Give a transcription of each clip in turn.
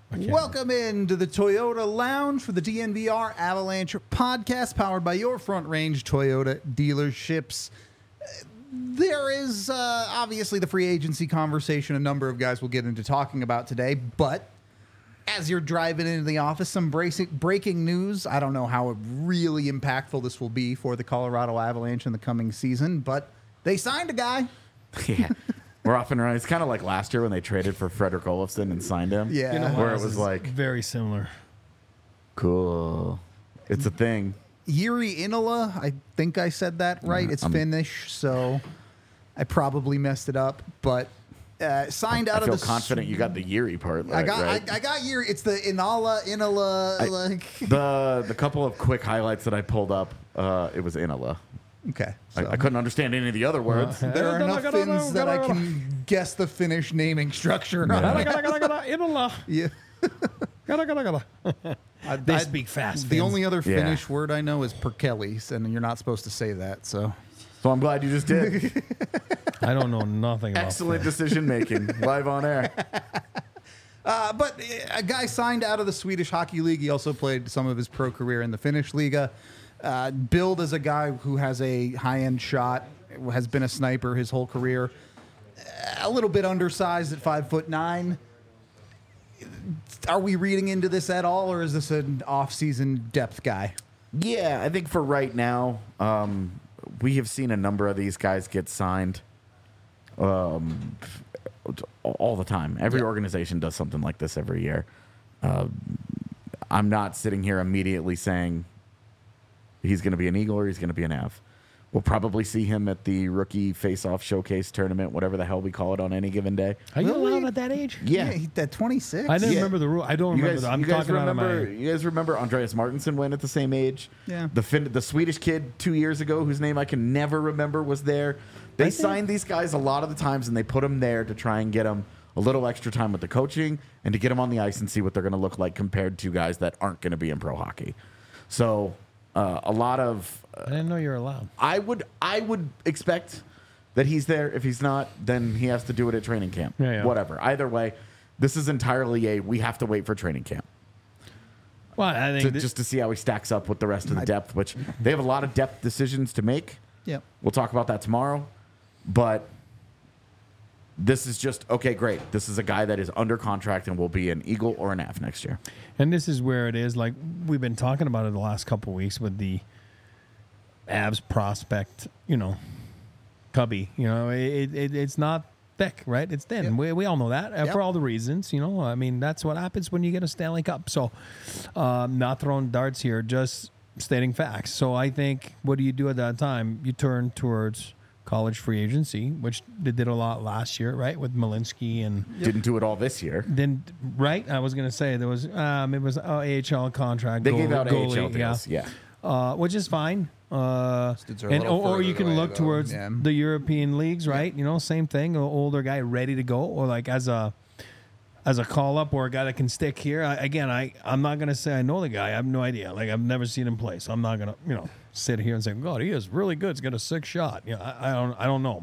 Welcome into the Toyota Lounge for the DNVR Avalanche podcast, powered by your Front Range Toyota dealerships. There is obviously the free agency conversation a number of guys will get into talking about today, but as you're driving into the office, some breaking news. I don't know how really impactful this will be for the Colorado Avalanche in the coming season, but they signed a guy. Yeah. We're off and running. It's kind of like last year when they traded for Frederick Olofsson and signed him. Yeah. You know, Where it this was is like, very similar. cool. It's a thing. Jiri Inola, I think I said that right. It's Finnish, so I probably messed it up, but signed out I feel of the... confident you got the Yuri part right. I got Jiri. It's the Inola, like... The couple of quick highlights that I pulled up, it was Inola. Okay. I couldn't understand any of the other words. There are enough Finns that I can guess the Finnish naming structure. Inola. Yeah. They speak fast. The Finns. only other Yeah. Finnish word I know is perkelis, and you're not supposed to say that, so... So I'm glad you just did. I don't know nothing about Excellent Finns. decision making live on air. But a guy signed out of the Swedish Hockey League. He also played some of his pro career in the Finnish Liga. Billed as a guy who has a high-end shot, has been a sniper his whole career. A little bit undersized at 5'9". Are we reading into this at all, or is this an off-season depth guy? Yeah, I think for right now, we have seen a number of these guys get signed all the time. Every organization does something like this every year. I'm not sitting here immediately saying he's going to be an Eagle or he's going to be an Av. We'll probably see him at the rookie face-off showcase tournament, whatever the hell we call it on any given day. Are you Really? allowed at that age? Yeah. At 26. I didn't Yeah. remember the rule. I don't remember. I'm talking out of my. You guys remember Andreas Martinsson went at the same age? Yeah. The Swedish kid 2 years ago, whose name I can never remember, was there. They signed these guys a lot of the times, and they put them there to try and get them a little extra time with the coaching and to get them on the ice and see what they're going to look like compared to guys that aren't going to be in pro hockey. So a lot of I didn't know you were allowed. I would expect that he's there. If he's not, then he has to do it at training camp. Yeah. Whatever. Either way, this is entirely we have to wait for training camp Well, I think just to see how he stacks up with the rest of the depth, which they have a lot of depth decisions to make. Yep. We'll talk about that tomorrow. But this is just, okay, great. This is a guy that is under contract and will be an Eagle or an Av next year. And this is where it is. Like we've been talking about it the last couple of weeks with the Avs prospect, cubby. It's not thick, right? It's thin. Yep. We all know that Yep. for all the reasons. I mean, that's what happens when you get a Stanley Cup. So, not throwing darts here, just stating facts. So I think, what do you do at that time? You turn towards college free agency, which they did a lot last year, right, with Malinsky and. Didn't do it all this year. Then right, I was gonna say there was it was AHL contract. They gave out goalie, AHL deals. Yeah. which is fine. dudes are a And little or further you can away, look though. towards Yeah. the European leagues, right? Same thing. An older guy ready to go, or like as a call up, or a guy that can stick here. I'm not gonna say I know the guy. I have no idea. Like I've never seen him play, so I'm not gonna sit here and say, God, he is really good. He's got a sick shot. I don't know him.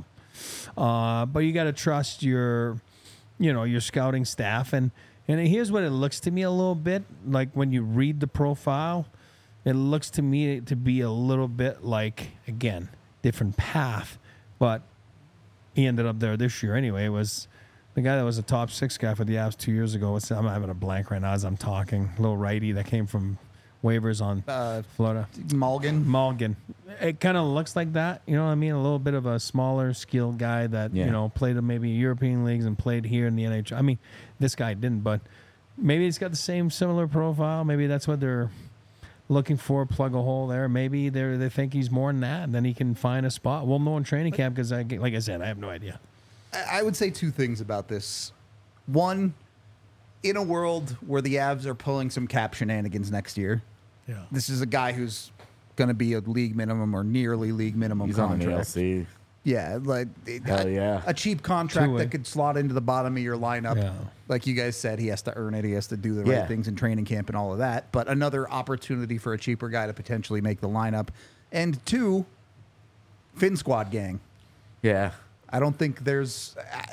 But you got to trust your scouting staff. And here's what it looks to me a little bit like when you read the profile. It looks to me to be a little bit like, again, different path. But he ended up there this year anyway. It was the guy that was a top 6 guy for the Avs 2 years ago. I'm having a blank right now as I'm talking. Little righty that came from waivers on Florida. Malgin. It kind of looks like that. You know what I mean? A little bit of a smaller, skilled guy that, played in maybe European leagues and played here in the NHL. I mean, this guy didn't, but maybe he's got the similar profile. Maybe that's what they're looking for, plug a hole there. Maybe they think he's more than that, and then he can find a spot. We'll know in training camp because, like I said, I have no idea. I would say 2 things about this. One, in a world where the Avs are pulling some cap shenanigans next year, this is a guy who's going to be a league minimum or nearly league minimum He's contract. on an ALC. Yeah, like Hell yeah. a cheap contract Two-way. that could slot into the bottom of your lineup. Yeah. Like you guys said, he has to earn it. He has to do the Yeah. right things in training camp and all of that. But another opportunity for a cheaper guy to potentially make the lineup. And 2, Finn Squad gang. Yeah. I don't think there's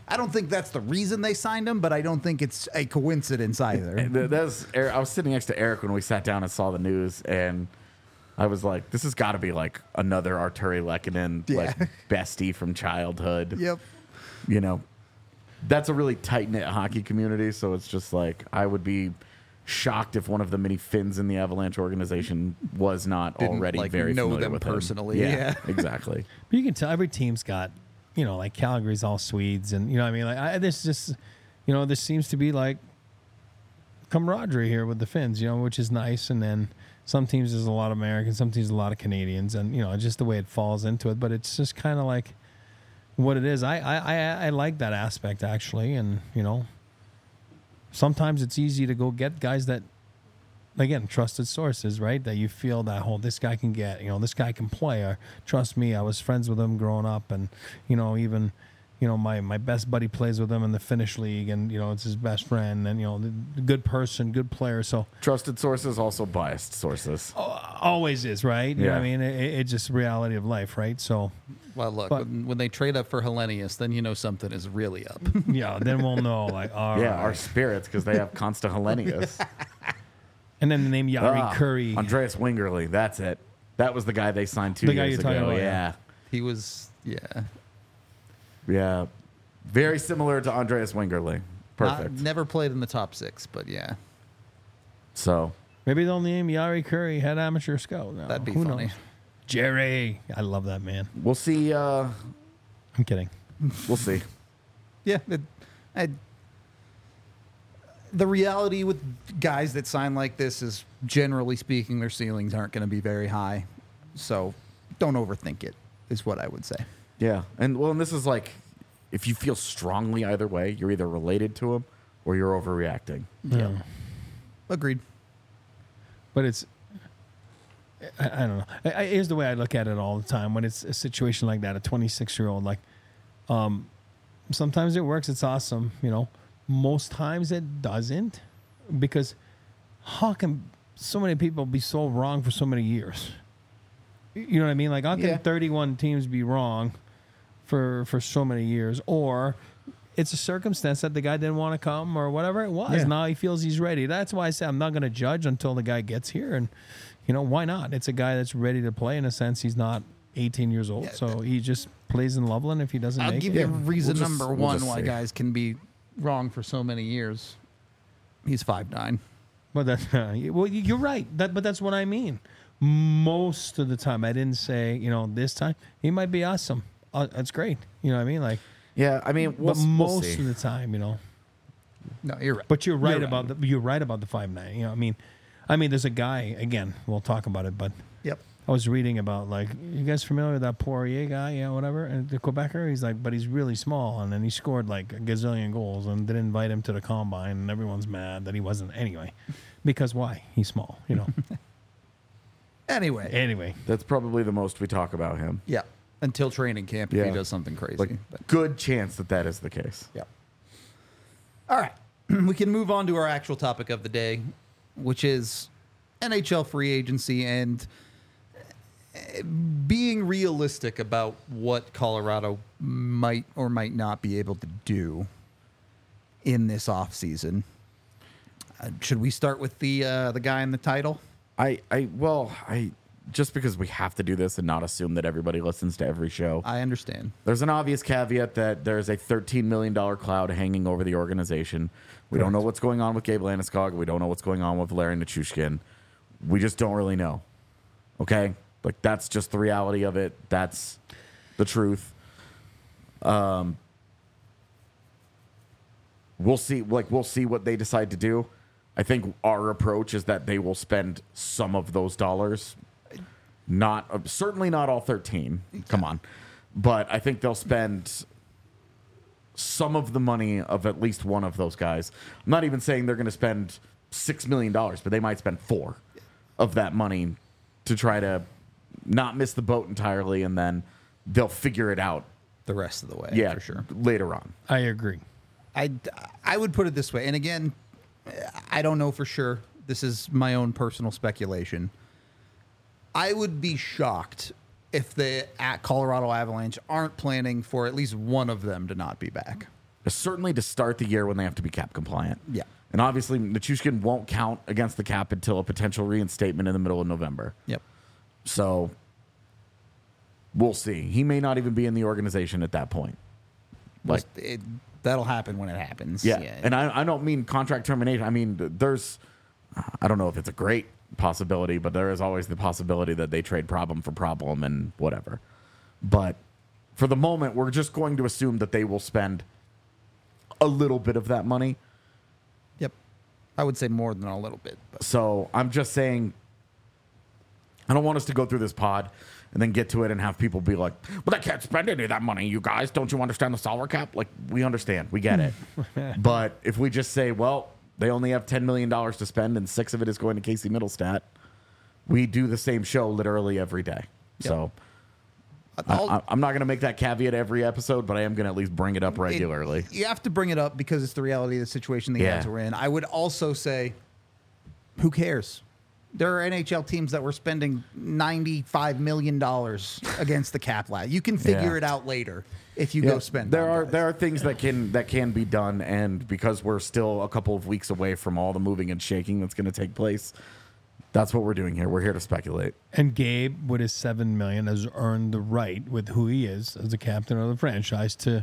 I don't think that's the reason they signed him, but I don't think it's a coincidence either. I was sitting next to Eric when we sat down and saw the news, and I was like, this has got to be like another Arturi Lehkonen, like bestie from childhood. Yep. You know, that's a really tight-knit hockey community, so it's just like I would be shocked if one of the many Finns in the Avalanche organization was not Didn't, already like, very know familiar them with personally. him. Yeah. Exactly. But you can tell every team's got, you know, like Calgary's all Swedes, and you know what I mean. Like this just, you know, there seems to be like camaraderie here with the Finns, you know, which is nice. And then some teams there's a lot of Americans, some teams a lot of Canadians, and you know, just the way it falls into it. But it's just kind of like what it is. I like that aspect actually, and you know, sometimes it's easy to go get guys that, again, trusted sources, right? That you feel that this guy can get, you know, this guy can play. Or trust me, I was friends with him growing up, and you know, even, you know, my best buddy plays with him in the Finnish league, and you know, it's his best friend, and you know, good person, good player. So Trusted sources, also biased sources. always is, right? You know what I Yeah. mean, it's just reality of life, right? So Well, look, But- when they trade up for Hellenius, then you know something is really up. yeah, then we'll know, like, all Yeah, right. our spirits, because they have Consta Hellenius. And then the name Yari Curry. Andreas Wingerly, that's it. That was the guy they signed 2 The guy years you're talking ago. about, Yeah. He was, Yeah. Very similar to Andreas Wingerly. Perfect. never played in the top 6, but yeah, So, Maybe they'll name Yari Curry head amateur scout. No, that'd be who funny. knows? Jerry, I love that man. we'll see. I'm kidding. We'll see. Yeah, the reality with guys that sign like this is, generally speaking, their ceilings aren't going to be very high. So don't overthink it, is what I would say. Yeah. And this is like, if you feel strongly either way, you're either related to him or you're overreacting. Yeah. Agreed. But it's, I don't know. Here's the way I look at it all the time when it's a situation like that, a 26-year-old, like, sometimes it works. It's awesome. You know, most times it doesn't, because how can so many people be so wrong for so many years? You know what I mean? Like, how can 31 teams be wrong for so many years? Or it's a circumstance that the guy didn't want to come or whatever it was. Yeah. Now he feels he's ready. That's why I say I'm not going to judge until the guy gets here. And, you know, why not? It's a guy that's ready to play. In a sense, he's not 18 years old. So he just plays in Loveland if he doesn't I'll make give it. you reason We'll just- number we'll one just why see. guys can be wrong for so many years. He's 5'9". But that's well, you're right. But that's what I mean. Most of the time, I didn't say, you know, this time he might be awesome. That's great. You know what I mean? Like, Yeah. I mean, but we'll most see. of the time, you know. No, you're right. But you're right You're about right. the 5'9". You know, I mean, there's a guy. Again, we'll talk about it. But Yep. I was reading about, like, you guys familiar with that Poirier guy? Yeah, whatever. And the Quebecer, he's like, but he's really small, and then he scored like a gazillion goals, and didn't invite him to the combine, and everyone's mad that he wasn't anyway. Because why? He's small. You know. Anyway, Anyway. That's probably the most we talk about him. yeah. Until training camp, if Yeah. he does something crazy. Like, But, good chance that is the case. yeah. All right. We can move on to our actual topic of the day, which is NHL free agency and being realistic about what Colorado might or might not be able to do in this offseason. Should we start with the guy in the title? I just because we have to do this and not assume that everybody listens to every show. I understand. There's an obvious caveat that there's a $13 million cloud hanging over the organization. We don't know what's going on with Gabe Landeskog. We don't know what's going on with Larry Nichushkin. We just don't really know. Okay? Like, that's just the reality of it. That's the truth. We'll see. Like, we'll see what they decide to do. I think our approach is that they will spend some of those dollars. Certainly not all 13. Come on. But I think they'll spend some of the money of at least one of those guys. I'm not even saying they're going to spend $6 million, but they might spend 4 of that money to try to not miss the boat entirely, and then they'll figure it out. The rest of the way, Yeah, for sure. later on. I agree. I would put it this way, and again, I don't know for sure. This is my own personal speculation. I would be shocked if the Colorado Avalanche aren't planning for at least one of them to not be back. certainly to start the year when they have to be cap compliant. Yeah. And obviously, Nichushkin won't count against the cap until a potential reinstatement in the middle of November. Yep. So we'll see. He may not even be in the organization at that point. Like, That'll happen when it happens. yeah. And I don't mean contract termination. I mean, I don't know if it's a great possibility, but there is always the possibility that they trade problem for problem and whatever. But for the moment, we're just going to assume that they will spend a little bit of that money. Yep. I would say more than a little bit. But. So I'm just saying, I don't want us to go through this pod and then get to it and have people be like, well, they can't spend any of that money, you guys. Don't you understand the salary cap? Like, we understand. We get it. But if we just say, well, they only have $10 million to spend and 6 of it is going to Casey Middlestat, we do the same show literally every day. Yep. So I'm not going to make that caveat every episode, but I am going to at least bring it up regularly. You have to bring it up because it's the reality of the situation the Yeah. Avs are in. I would also say, who cares? There are NHL teams that were spending $95 million against the cap last. You can figure Yeah. it out later if you go spend. There on guys. are things that can be done, and because we're still a couple of weeks away from all the moving and shaking that's going to take place, that's what we're doing here. We're here to speculate. And Gabe, with his $7 million, has earned the right, with who he is as the captain of the franchise, to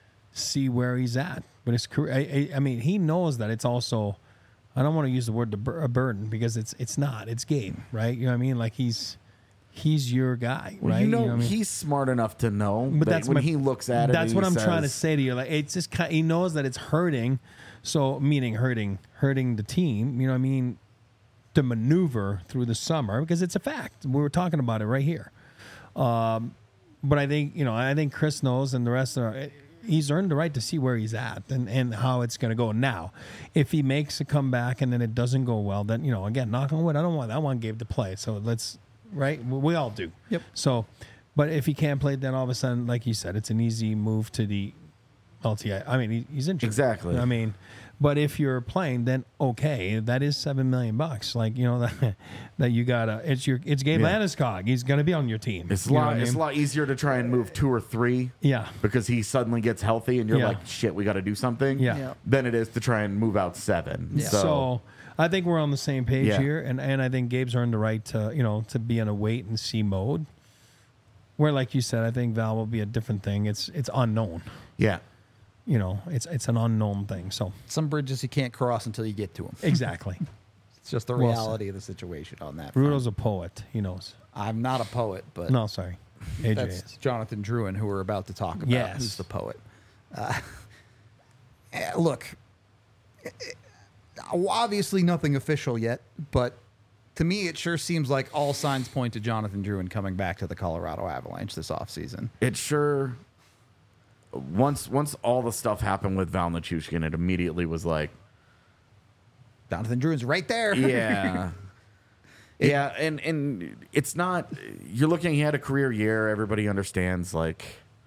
see where he's at. But his career, I mean, he knows that it's also. I don't want to use the word a burden because it's not. It's Gabe, right? You know what I mean? Like he's your guy, Well, right? you know, what I mean? he's smart enough to know But that that's when he looks at it. That's and what he I'm trying to says- say to you. Like it's just he knows that it's hurting. So meaning hurting the team. You know what I mean? To maneuver through the summer because it's a fact. We were talking about it right here. But I think Chris knows and the rest are. He's earned the right to see where he's at and how it's going to go. Now, if he makes a comeback and then it doesn't go well, then, again, knock on wood, I want Gabe to play. So let's, right? We all do. Yep. So, but if he can't play, then all of a sudden, like you said, it's an easy move to the LTI. I mean, he's injured. Exactly. I mean, but if you're playing, then okay, that is $7 million. Like, that you gotta. It's Gabe Yeah. Landeskog. He's gonna be on your team. It's You know what I it's a mean? lot easier to try and move 2 or 3. Yeah. Because he suddenly gets healthy and you're Yeah. like, shit, we got to do something. Yeah. Yeah. Than it is to try and move out 7. Yeah. So I think we're on the same page Yeah. here, and I think Gabe's earned the right to to be in a wait and see mode. Where, like you said, I think Val will be a different thing. It's unknown. yeah. It's an unknown thing. So Some bridges you can't cross until you get to them. exactly, It's just the Well reality of the situation on that. front. Rudo's a poet. He knows. I'm not a poet, but No, sorry, AJ that's is. Jonathan Drouin, who we're about to talk about. Yes. Who's the poet? Look, obviously nothing official yet, but to me, it sure seems like all signs point to Jonathan Drouin coming back to the Colorado Avalanche this offseason. It sure. Once all the stuff happened with Val Nichushkin, it immediately was like, Jonathan Drouin's right there. yeah. Yeah, and it's not. You're looking. He had a career year. Everybody understands. Like,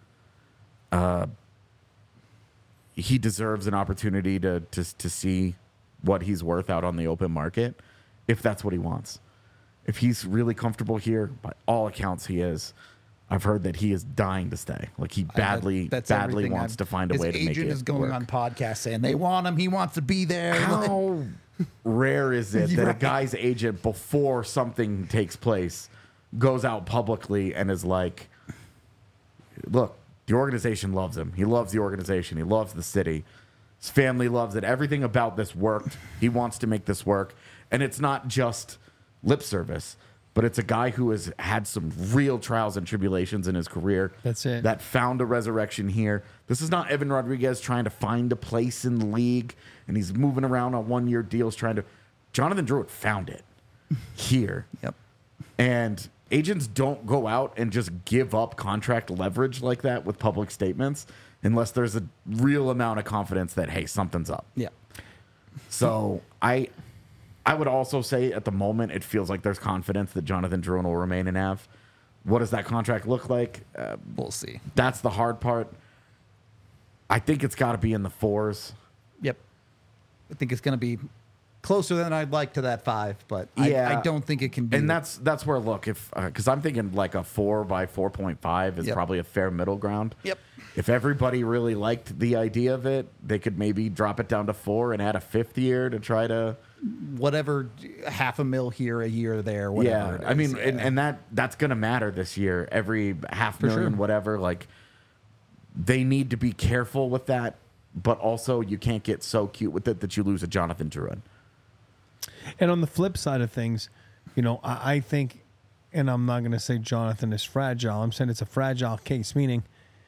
he deserves an opportunity to see what he's worth out on the open market, if that's what he wants. If he's really comfortable here, by all accounts, he is. I've heard that he is dying to stay. Like he badly That's badly everything wants to find a way to His make it agent is going work. on podcasts saying they want him. He wants to be there. How rare is it that a Right. guy's agent, before something takes place, goes out publicly and is like, look, the organization loves him. He loves the organization. He loves the city. His family loves it. Everything about this worked. He wants to make this work. And it's not just lip service, but it's a guy who has had some real trials and tribulations in his career. That's it. That found a resurrection here. This is not Evan Rodriguez trying to find a place in the league and he's moving around on 1-year deals trying to. Jonathan Drouin found it here. Yep. And agents don't go out and just give up contract leverage like that with public statements unless there's a real amount of confidence that, hey, something's up. Yeah. So I would also say at the moment it feels like there's confidence that Jonathan Drouin will remain in Av. What does that contract look like? We'll see. That's the hard part. I think it's got to be in the 4s. Yep. I think it's going to be closer than I'd like to that 5, but Yeah. I don't think it can be. And that's where, look, if because I'm thinking like a 4 by 4.5 is Yep. probably a fair middle ground. Yep. if everybody really liked the idea of it, they could maybe drop it down to 4 and add a 5th year to try to whatever, $500,000 here, a year there, whatever. Yeah, I mean, and that's going to matter this year. Every $500,000, whatever. Like, they need to be careful with that, but also you can't get so cute with it that you lose a Jonathan Drouin. And on the flip side of things, you know, I think, and I'm not going to say Jonathan is fragile. I'm saying it's a fragile case, meaning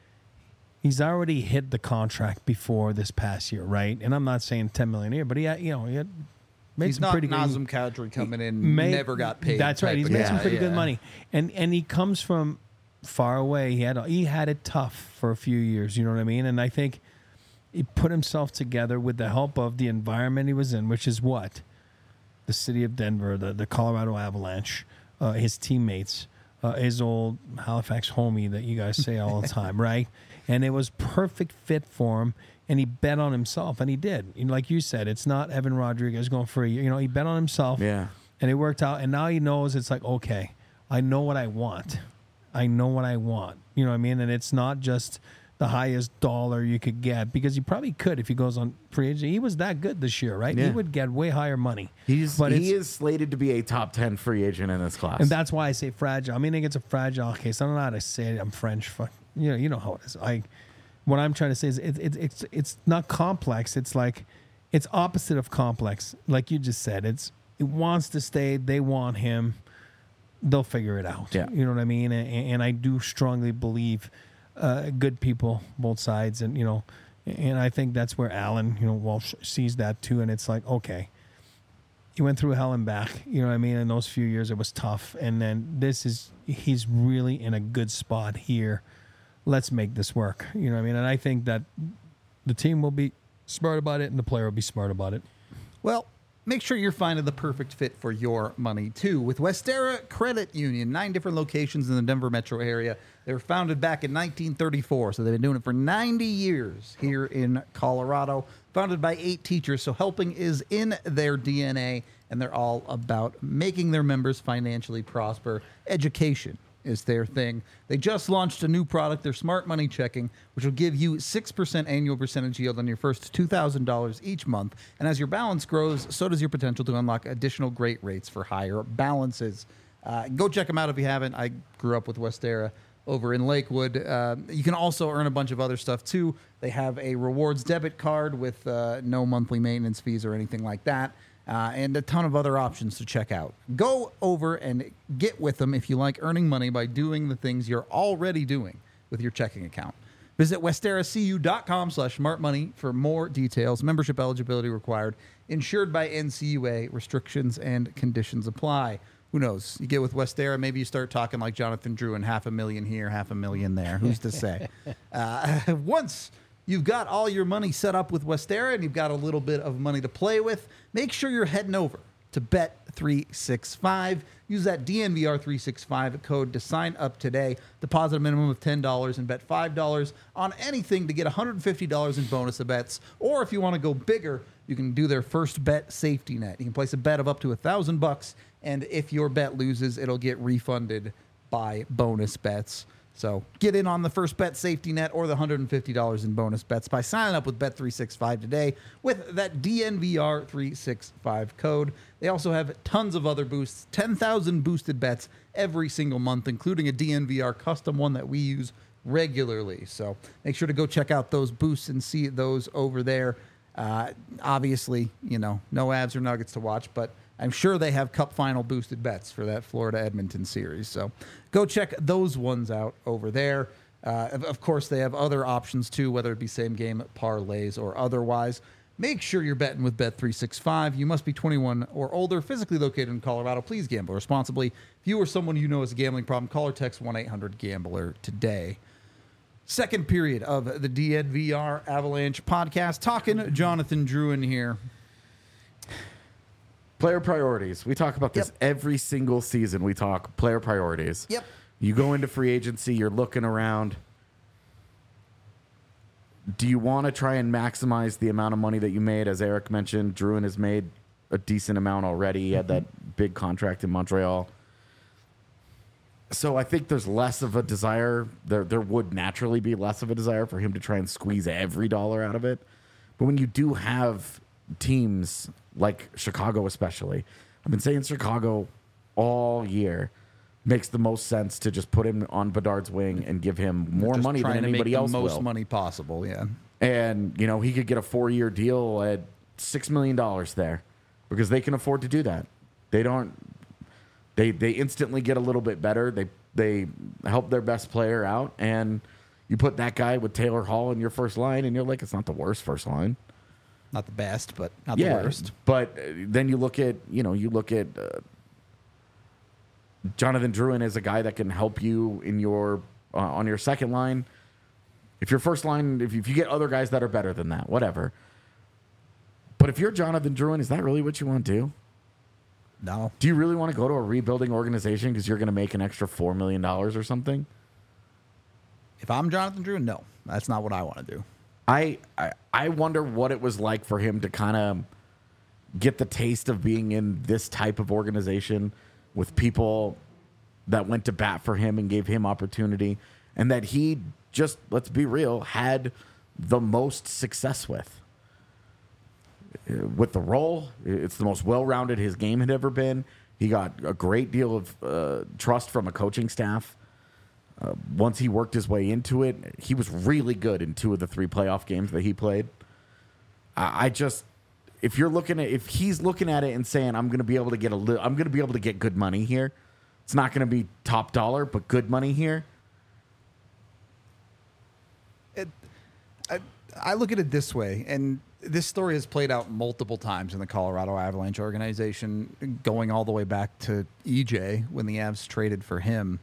he's already hit the contract before this past year, right? And I'm not saying $10 million a year, but he had made He's some not pretty Nazem Kadri coming in, never got paid. That's right. He's made some pretty good money, and he comes from far away. He had it tough for a few years. You know what I mean? And I think he put himself together with the help of the environment he was in, which is what the city of Denver, the Colorado Avalanche, his teammates, his old Halifax homie that you guys say all the time, right? And it was perfect fit for him. And he bet on himself, and he did. You know, like you said, it's not Evan Rodriguez going for a year. You know, he bet on himself, and it worked out. And now he knows it's like, okay, I know what I want. You know what I mean? And it's not just the highest dollar you could get, because he probably could if he goes on free agent. He was that good this year, right? Yeah. He would get way higher money. He is slated to be a top 10 free agent in this class. And that's why I say fragile. I mean, I think it's a fragile case. I don't know how to say it. I'm French. You know how it is. What I'm trying to say is it's not complex. It's like it's opposite of complex. Like you just said, it wants to stay. They want him. They'll figure it out. Yeah. You know what I mean? And I do strongly believe good people, both sides, and you know, and I think that's where Alan, you know, Walsh sees that too. And it's like, okay, he went through hell and back. You know what I mean? In those few years, it was tough. And then he's really in a good spot here. Let's make this work. You know what I mean? And I think that the team will be smart about it and the player will be smart about it. Well, make sure you're finding the perfect fit for your money, too. With Westera Credit Union, 9 different locations in the Denver metro area. They were founded back in 1934, so they've been doing it for 90 years here in Colorado. Founded by 8 teachers, so helping is in their DNA, and they're all about making their members financially prosper. Education is their thing. They just launched a new product, their Smart Money Checking, which will give you 6% annual percentage yield on your first $2,000 each month. And as your balance grows, so does your potential to unlock additional great rates for higher balances. Go check them out if you haven't. I grew up with Westera over in Lakewood. You can also earn a bunch of other stuff too. They have a rewards debit card with no monthly maintenance fees or anything like that. And a ton of other options to check out. Go over and get with them if you like earning money by doing the things you're already doing with your checking account. Visit westeracu.com/smartmoney for more details. Membership eligibility required. Insured by NCUA. Restrictions and conditions apply. Who knows? You get with Westera, maybe you start talking like Jonathan Drouin, $500,000 here, $500,000 there. Who's to say? Once you've got all your money set up with Westera and you've got a little bit of money to play with, make sure you're heading over to Bet365. Use that DNVR365 code to sign up today. Deposit a minimum of $10 and bet $5 on anything to get $150 in bonus bets. Or if you want to go bigger, you can do their first bet safety net. You can place a bet of up to $1,000, and if your bet loses, it'll get refunded by bonus bets. So get in on the first bet safety net or the $150 in bonus bets by signing up with Bet365 today with that DNVR365 code. They also have tons of other boosts, 10,000 boosted bets every single month, including a DNVR custom one that we use regularly. So make sure to go check out those boosts and see those over there. Obviously, you know, no Avs or Nuggets to watch, but I'm sure they have Cup final boosted bets for that Florida-Edmonton series. So go check those ones out over there. Of course, they have other options too, whether it be same game parlays or otherwise. Make sure you're betting with Bet365. You must be 21 or older, physically located in Colorado. Please gamble responsibly. If you or someone you know has a gambling problem, call or text 1-800-GAMBLER today. Second period of the DNVR Avalanche podcast. Talking Jonathan Drouin here. Player priorities. We talk about this every single season. We talk player priorities. Yep. You go into free agency, you're looking around. Do you want to try and maximize the amount of money that you made? As Eric mentioned, Drouin has made a decent amount already. He had that big contract in Montreal. So I think there's less of a desire. There would naturally be less of a desire for him to try and squeeze every dollar out of it. But when you do have teams like Chicago, especially, I've been saying Chicago all year, makes the most sense to just put him on Bedard's wing and give him more Just money than trying to anybody make else the most will. money possible. Yeah. And, you know, he could get a 4-year deal at $6 million there because they can afford to do that. They instantly get a little bit better. They help their best player out, and you put that guy with Taylor Hall in your first line, and you're like, it's not the worst first line. Not the best, but not the worst. But then you look at Jonathan Drouin as a guy that can help you in your on your second line. If your first line, if you get other guys that are better than that, whatever. But if you're Jonathan Drouin, is that really what you want to do? No. Do you really want to go to a rebuilding organization because you're going to make an extra $4 million or something? If I'm Jonathan Drouin, no. That's not what I want to do. I wonder what it was like for him to kind of get the taste of being in this type of organization with people that went to bat for him and gave him opportunity, and that he just, let's be real, had the most success with. With the role, it's the most well-rounded his game had ever been. He got a great deal of trust from a coaching staff. Once he worked his way into it, he was really good in 2 of the 3 playoff games that he played. If he's looking at it and saying, I'm going to be able to get good money here. It's not going to be top dollar, but good money here. I look at it this way, and this story has played out multiple times in the Colorado Avalanche organization, going all the way back to EJ when the Avs traded for him.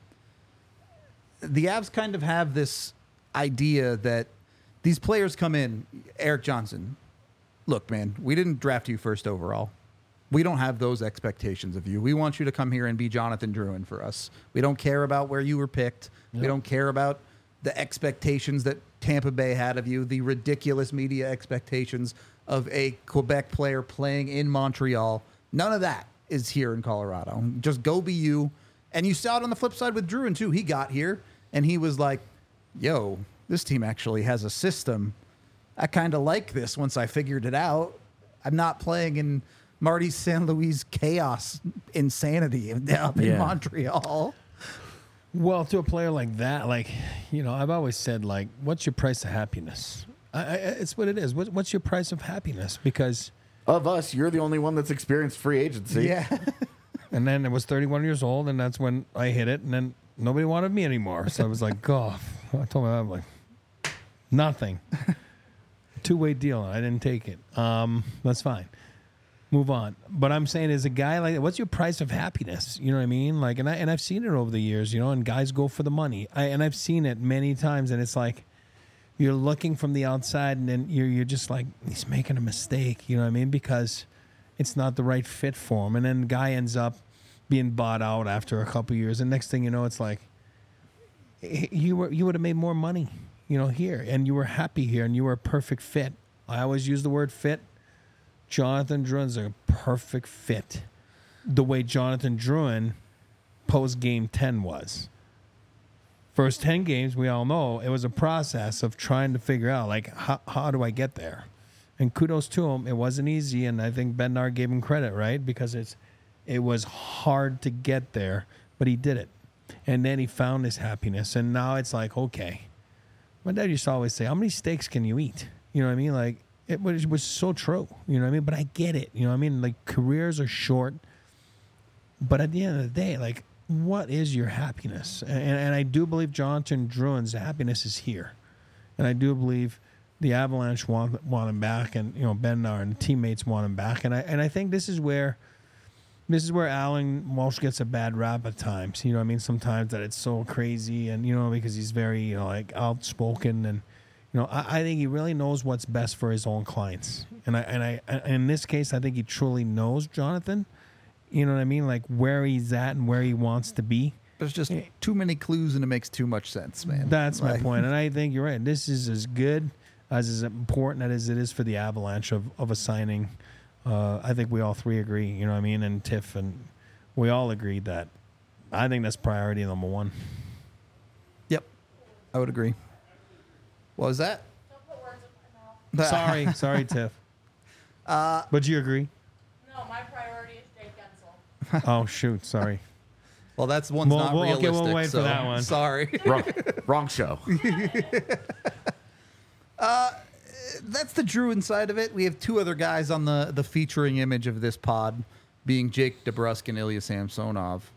The Avs kind of have this idea that these players come in. Erik Johnson, look, man, we didn't draft you first overall. We don't have those expectations of you. We want you to come here and be Jonathan Drouin for us. We don't care about where you were picked. Yep. We don't care about the expectations that Tampa Bay had of you, the ridiculous media expectations of a Quebec player playing in Montreal. None of that is here in Colorado. Just go be you. And you saw it on the flip side with Drouin, too. He got here, and he was like, yo, this team actually has a system. I kind of like this once I figured it out. I'm not playing in Marty St. Louis chaos insanity up in Montreal. Well, to a player like that, I've always said, what's your price of happiness? It's what it is. What's your price of happiness? Because of us, you're the only one that's experienced free agency. Yeah. And then it was 31 years old, and that's when I hit it, and then nobody wanted me anymore. So I was like, I told my mom, nothing. 2-way deal, and I didn't take it. That's fine. Move on. But I'm saying, as a guy like that, what's your price of happiness? You know what I mean? And I've seen it over the years, and guys go for the money. And I've seen it many times, and it's like you're looking from the outside, and then you're just like, he's making a mistake. You know what I mean? Because it's not the right fit for him. And then the guy ends up being bought out after a couple of years. And next thing you know, it's like you would have made more money, here, and you were happy here, and you were a perfect fit. I always use the word fit. Jonathan Drouin's a perfect fit. The way Jonathan Drouin post game 10 was. First 10 games, we all know it was a process of trying to figure out how do I get there? And kudos to him. It wasn't easy, and I think Bednar gave him credit, right? Because it was hard to get there, but he did it. And then he found his happiness, and now it's like, okay. My dad used to always say, how many steaks can you eat? You know what I mean? It was so true, you know what I mean? But I get it, you know what I mean? Careers are short, but at the end of the day, what is your happiness? And I do believe Jonathan Drouin's happiness is here. And I do believe the Avalanche want him back, and, Bednar and the teammates want him back. And I think this is where Alan Walsh gets a bad rap at times, you know what I mean? Sometimes that it's so crazy, and, because he's very, outspoken, and, I think he really knows what's best for his own clients. And I in this case, I think he truly knows Jonathan. You know what I mean? Where he's at and where he wants to be. There's just too many clues, and it makes too much sense, man. That's my point. And I think you're right. This is as good, as important as it is for the Avalanche of a signing. I think we all three agree, you know what I mean? And Tiff, and we all agreed that I think that's priority number one. Yep, I would agree. What was that? Don't put words in my mouth. Sorry, Tiff. But you agree? No, my priority is Jake Gensel. Oh shoot, sorry. Well, that's one's not okay, realistic. we'll wait for so that one. Sorry. Wrong show. That's the Druin side of it. We have two other guys on the featuring image of this pod, being Jake DeBrusk and Ilya Samsonov.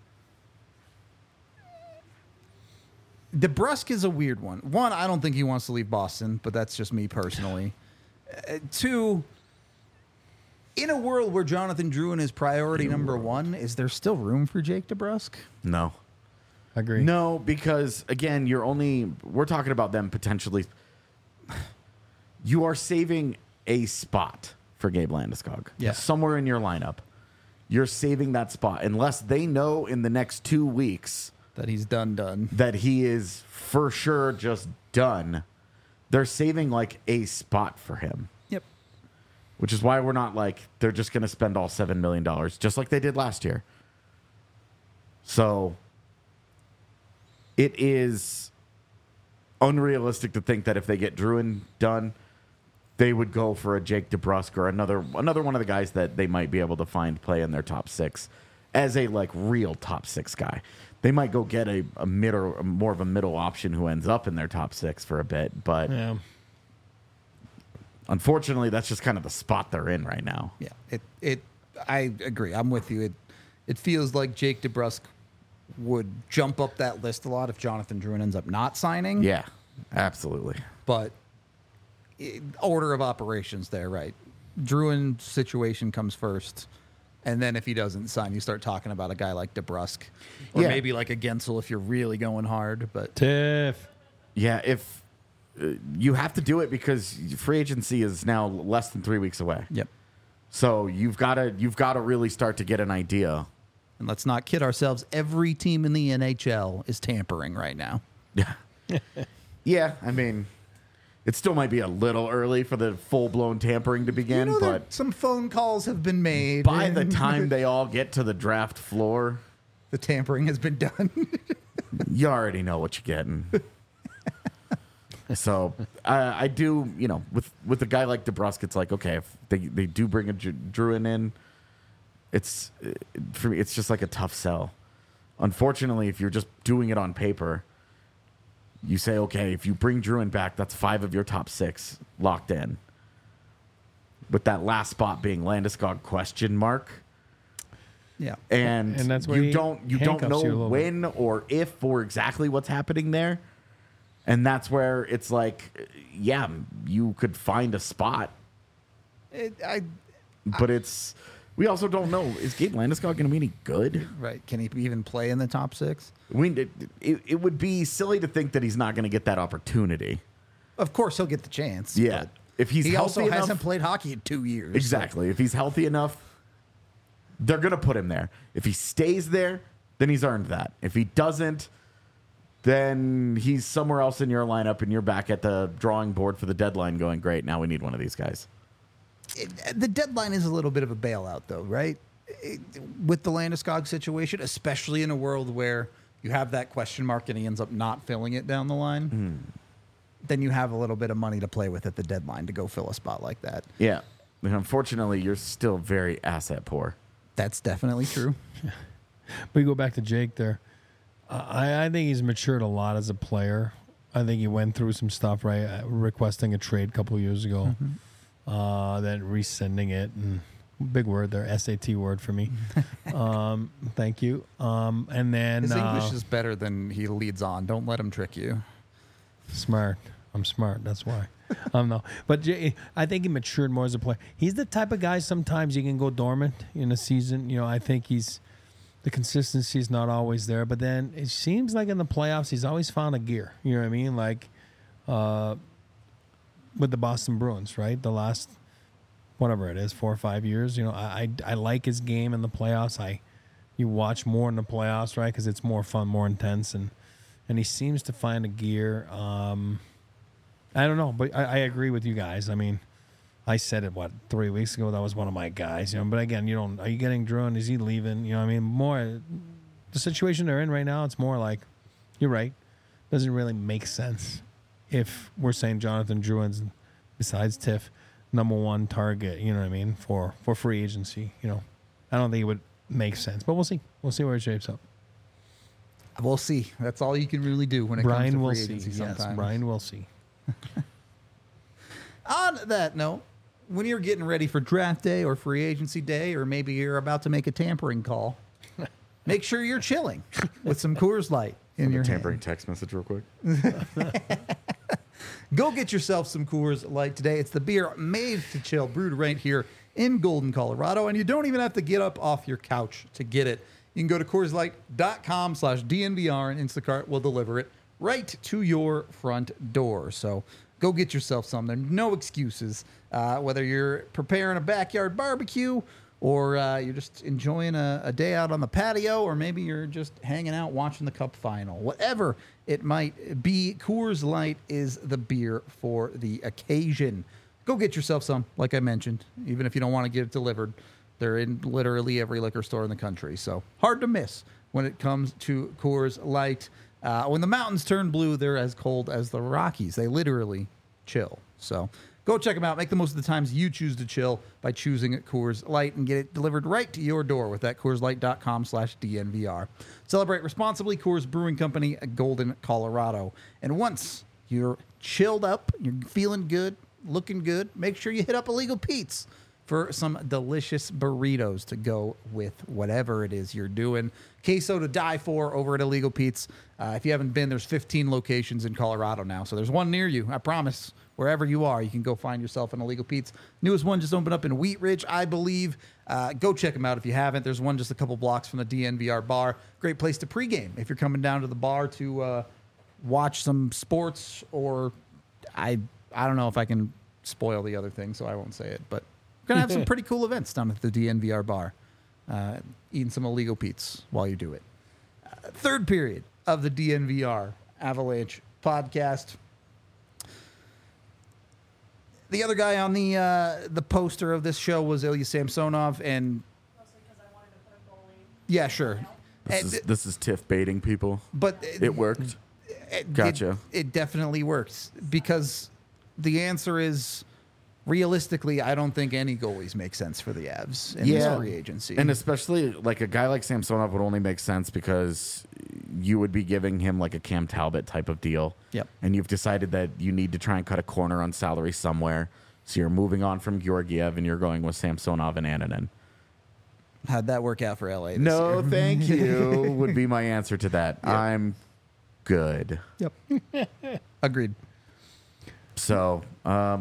DeBrusk is a weird one. One, I don't think he wants to leave Boston, but that's just me personally. Two, in a world where Jonathan Druin is priority number one, is there still room for Jake DeBrusk? No. Agree. No, because again, we're talking about them potentially. You are saving a spot for Gabe Landeskog. Yeah. Somewhere in your lineup. You're saving that spot unless they know in the next 2 weeks That he's done. that he is for sure just done. They're saving like a spot for him, Yep. which is why we're not like they're just going to spend all $7 million just like they did last year. So it is unrealistic to think that if they get Druin done, they would go for a Jake DeBrusk or another one of the guys that they might be able to find play in their top six as a like real top six guy. They might go get a mid or more of a middle option who ends up in their top six for a bit, but Yeah. unfortunately, that's just kind of the spot they're in right now. Yeah. I agree. I'm with you. It feels like Jake DeBrusk would jump up that list a lot if Jonathan Druin ends up not signing. Yeah, absolutely. But order of operations there, right? Druin situation comes first. And then if he doesn't sign, you start talking about a guy like DeBrusk. Or Yeah. maybe like a Gensel if you're really going hard. But Tiff. Yeah, if you have to do it because free agency is now less than 3 weeks away. yep. So you've got to really start to get an idea. And let's not kid ourselves. Every team in the NHL is tampering right now. Yeah. Yeah, I mean, it still might be a little early for the full-blown tampering to begin, You know but that some phone calls have been made. by the and time they all get to the draft floor, the tampering has been done. you already know what you're getting. So I do, with a guy like DeBrusk, it's like, okay, if they do bring a Druin in, it's for me, it's just like a tough sell. Unfortunately, if you're just doing it on paper, you say, okay, if you bring Druin back, that's 5 of your top 6 locked in. With that last spot being Landeskog ? Yeah. And that's where you he don't handcuffs know you a little when or if or exactly what's happening there. And that's where it's like, yeah, you could find a spot, but we also don't know, is Gabe Landeskog going to be any good? Right. Can he even play in the top 6? It would be silly to think that he's not going to get that opportunity. Of course, he'll get the chance. Yeah. but If he's he healthy also enough, hasn't played hockey in 2 years. exactly. If he's healthy enough, they're going to put him there. If he stays there, then he's earned that. If he doesn't, then he's somewhere else in your lineup and you're back at the drawing board for the deadline going, great, now we need one of these guys. The deadline is a little bit of a bailout, though, right? With the Landeskog situation, especially in a world where you have that question mark and he ends up not filling it down the line, then you have a little bit of money to play with at the deadline to go fill a spot like that. Yeah. And unfortunately, you're still very asset poor. That's definitely true. We go back to Jake there. I think he's matured a lot as a player. I think he went through some stuff, right? Requesting a trade a couple of years ago, then rescinding it. And big word there, SAT word for me. Thank you. And then His English is better than he leads on. Don't let him trick you. smart. I'm smart. That's why. No, but I think he matured more as a player. He's the type of guy sometimes you can go dormant in a season. I think the consistency is not always there, but then it seems like in the playoffs he's always found a gear. You know what I mean? Like with the Boston Bruins, right? The last whatever it is, 4 or 5 years. I like his game in the playoffs. You watch more in the playoffs, right? Because it's more fun, more intense, and he seems to find a gear. I don't know, but I agree with you guys. I mean, I said it 3 weeks ago. That was one of my guys. But again, are you getting Druin? Is he leaving? More the situation they're in right now, it's more like, you're right, doesn't really make sense if we're saying Jonathan Drouin's, besides Tiff, number one target, you know what I mean, for free agency. You know, I don't think it would make sense, but we'll see. We'll see where it shapes up. We'll see. That's all you can really do when it Brian comes to will free see. agency Yes, sometimes. Brian will see. On that note, when you're getting ready for draft day or free agency day, or maybe you're about to make a tampering call, make sure you're chilling with some Coors Light in your tampering hand. text message real quick. Go get yourself some Coors Light today. It's the beer made to chill, brewed right here in Golden, Colorado, and you don't even have to get up off your couch to get it. You can go to CoorsLight.com/DNVR, and Instacart will deliver it right to your front door. So go get yourself some. There's no excuses. Whether you're preparing a backyard barbecue, or you're just enjoying a day out on the patio, or maybe you're just hanging out watching the Cup final. Whatever it might be, Coors Light is the beer for the occasion. Go get yourself some, like I mentioned, even if you don't want to get it delivered. They're in literally every liquor store in the country, so hard to miss when it comes to Coors Light. When the mountains turn blue, they're as cold as the Rockies. They literally chill. So go check them out. Make the most of the times you choose to chill by choosing Coors Light and get it delivered right to your door with that CoorsLight.com/DNVR. Celebrate responsibly. Coors Brewing Company, Golden, Colorado. And once you're chilled up, you're feeling good, looking good, make sure you hit up Illegal Pete's for some delicious burritos to go with whatever it is you're doing. Queso to die for over at Illegal Pete's. If you haven't been, there's 15 locations in Colorado now. So there's one near you. I promise. Wherever you are, you can go find yourself an Illegal Pete's. Newest one just opened up in Wheat Ridge, I believe. Go check them out if you haven't. There's one just a couple blocks from the DNVR bar. Great place to pregame if you're coming down to the bar to watch some sports, or I don't know if I can spoil the other thing, so I won't say it. But we're going to have some pretty cool events down at the DNVR bar. Eating some Illegal Pete's while you do it. Third period of the DNVR Avalanche podcast. The other guy on the poster of this show was Ilya Samsonov, and Mostly because I wanted to put a goalie. yeah, sure. This is Tiff baiting people. But It worked. Gotcha. It definitely works, because the answer is, realistically, I don't think any goalies make sense for the Avs in this free agency. And especially like a guy like Samsonov would only make sense because you would be giving him like a Cam Talbot type of deal. Yep. And you've decided that you need to try and cut a corner on salary somewhere. So you're moving on from Georgiev and you're going with Samsonov and Annunen. How'd that work out for LA this No, year? thank you, would be my answer to that. Yep. I'm good. Yep. Agreed. So I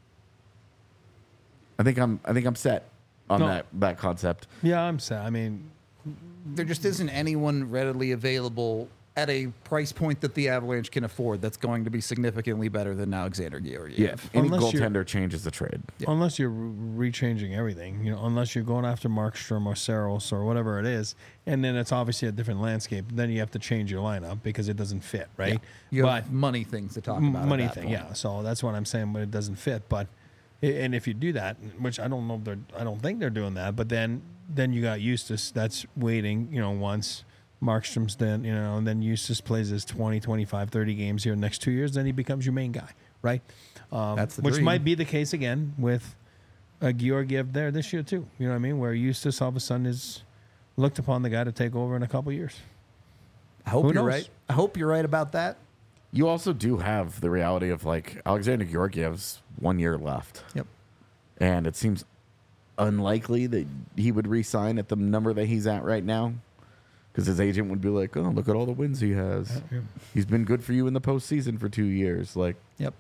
think I'm set on No. that concept. Yeah, I'm sad. I mean, There just isn't anyone readily available at a price point that the Avalanche can afford that's going to be significantly better than Alexander Georgiev. Any Unless you're- goaltender changes the trade. unless you're rechanging everything, you know, unless you're going after Markstrom or Saros or whatever it is, and then it's obviously a different landscape. Then you have to change your lineup because it doesn't fit, right? You But have money things to talk about. money at that thing, point. yeah. So that's what I'm saying, but it doesn't fit. But and if you do that, which I don't know, I don't think they're doing that. But then you got Eustace that's waiting, you know, once Markstrom's then, you know, and then Eustace plays his 20, 25, 30 games here in the next 2 years, then he becomes your main guy, right? That's the which dream. might be the case again with Georgiev there this year too. You know what I mean? Where Eustace all of a sudden is looked upon the guy to take over in a couple years. I hope Who you're knows? right. I hope you're right about that. You also do have the reality of like Alexander Georgiev's 1 year left. Yep. And it seems unlikely that he would re-sign at the number that he's at right now, because his agent would be like, "Oh, look at all the wins he has. Yeah. He's been good for you in the postseason for 2 years." Like, Yep.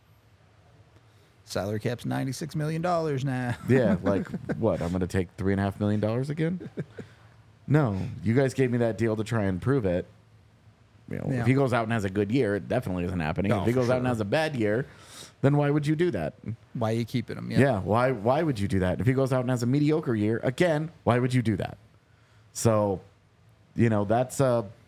Salary cap's $96 million now. yeah, like what? I'm going to take $3.5 million again? No, you guys gave me that deal to try and prove it. You know, Yeah. if he goes out and has a good year, it definitely isn't happening. No, if he for goes out and sure. has a bad year, then why would you do that? Why are you keeping him? Yeah. Why would you do that? If he goes out and has a mediocre year, again, why would you do that? So, you know, that's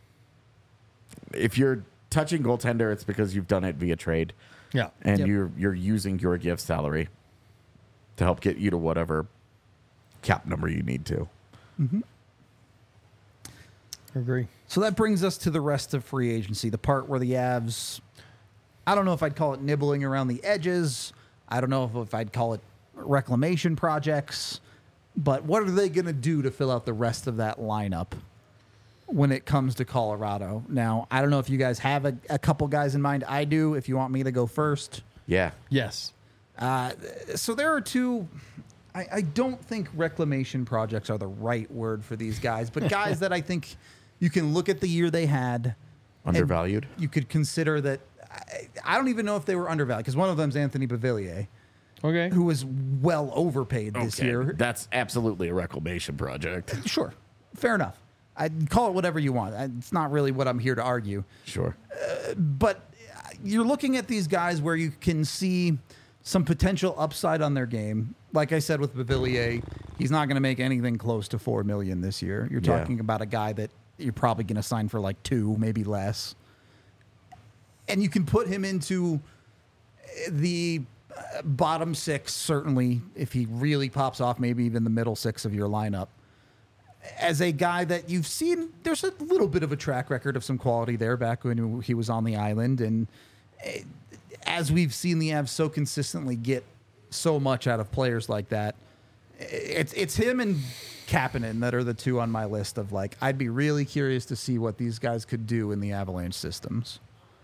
if you're touching goaltender, it's because you've done it via trade, Yeah. and Yep. you're using your gift salary to help get you to whatever cap number you need to. Agree. So that brings us to the rest of free agency, the part where the Avs, I don't know if I'd call it nibbling around the edges. I don't know if I'd call it reclamation projects. But what are they going to do to fill out the rest of that lineup when it comes to Colorado? Now, I don't know if you guys have a couple guys in mind. I do, if you want me to go first. Yeah. Yes. So there are two. I don't think reclamation projects are the right word for these guys, but guys that I think you can look at the year they had. and Undervalued. You could consider that. I don't even know if they were undervalued because one of them's Anthony Beauvillier, Okay. who was well overpaid this year. That's absolutely a reclamation project. Sure. Fair enough. I'd call it whatever you want. It's not really what I'm here to argue. Sure. But you're looking at these guys where you can see some potential upside on their game. Like I said with Beauvillier, he's not going to make anything close to $4 million this year. You're Yeah. talking about a guy that you're probably going to sign for like 2, maybe less. And you can put him into the bottom 6, certainly, if he really pops off, maybe even the middle 6 of your lineup. As a guy that you've seen, there's a little bit of a track record of some quality there back when he was on the island. And as we've seen the Avs so consistently get so much out of players like that, it's him and Kapanen that are the two on my list of like, I'd be really curious to see what these guys could do in the Avalanche systems.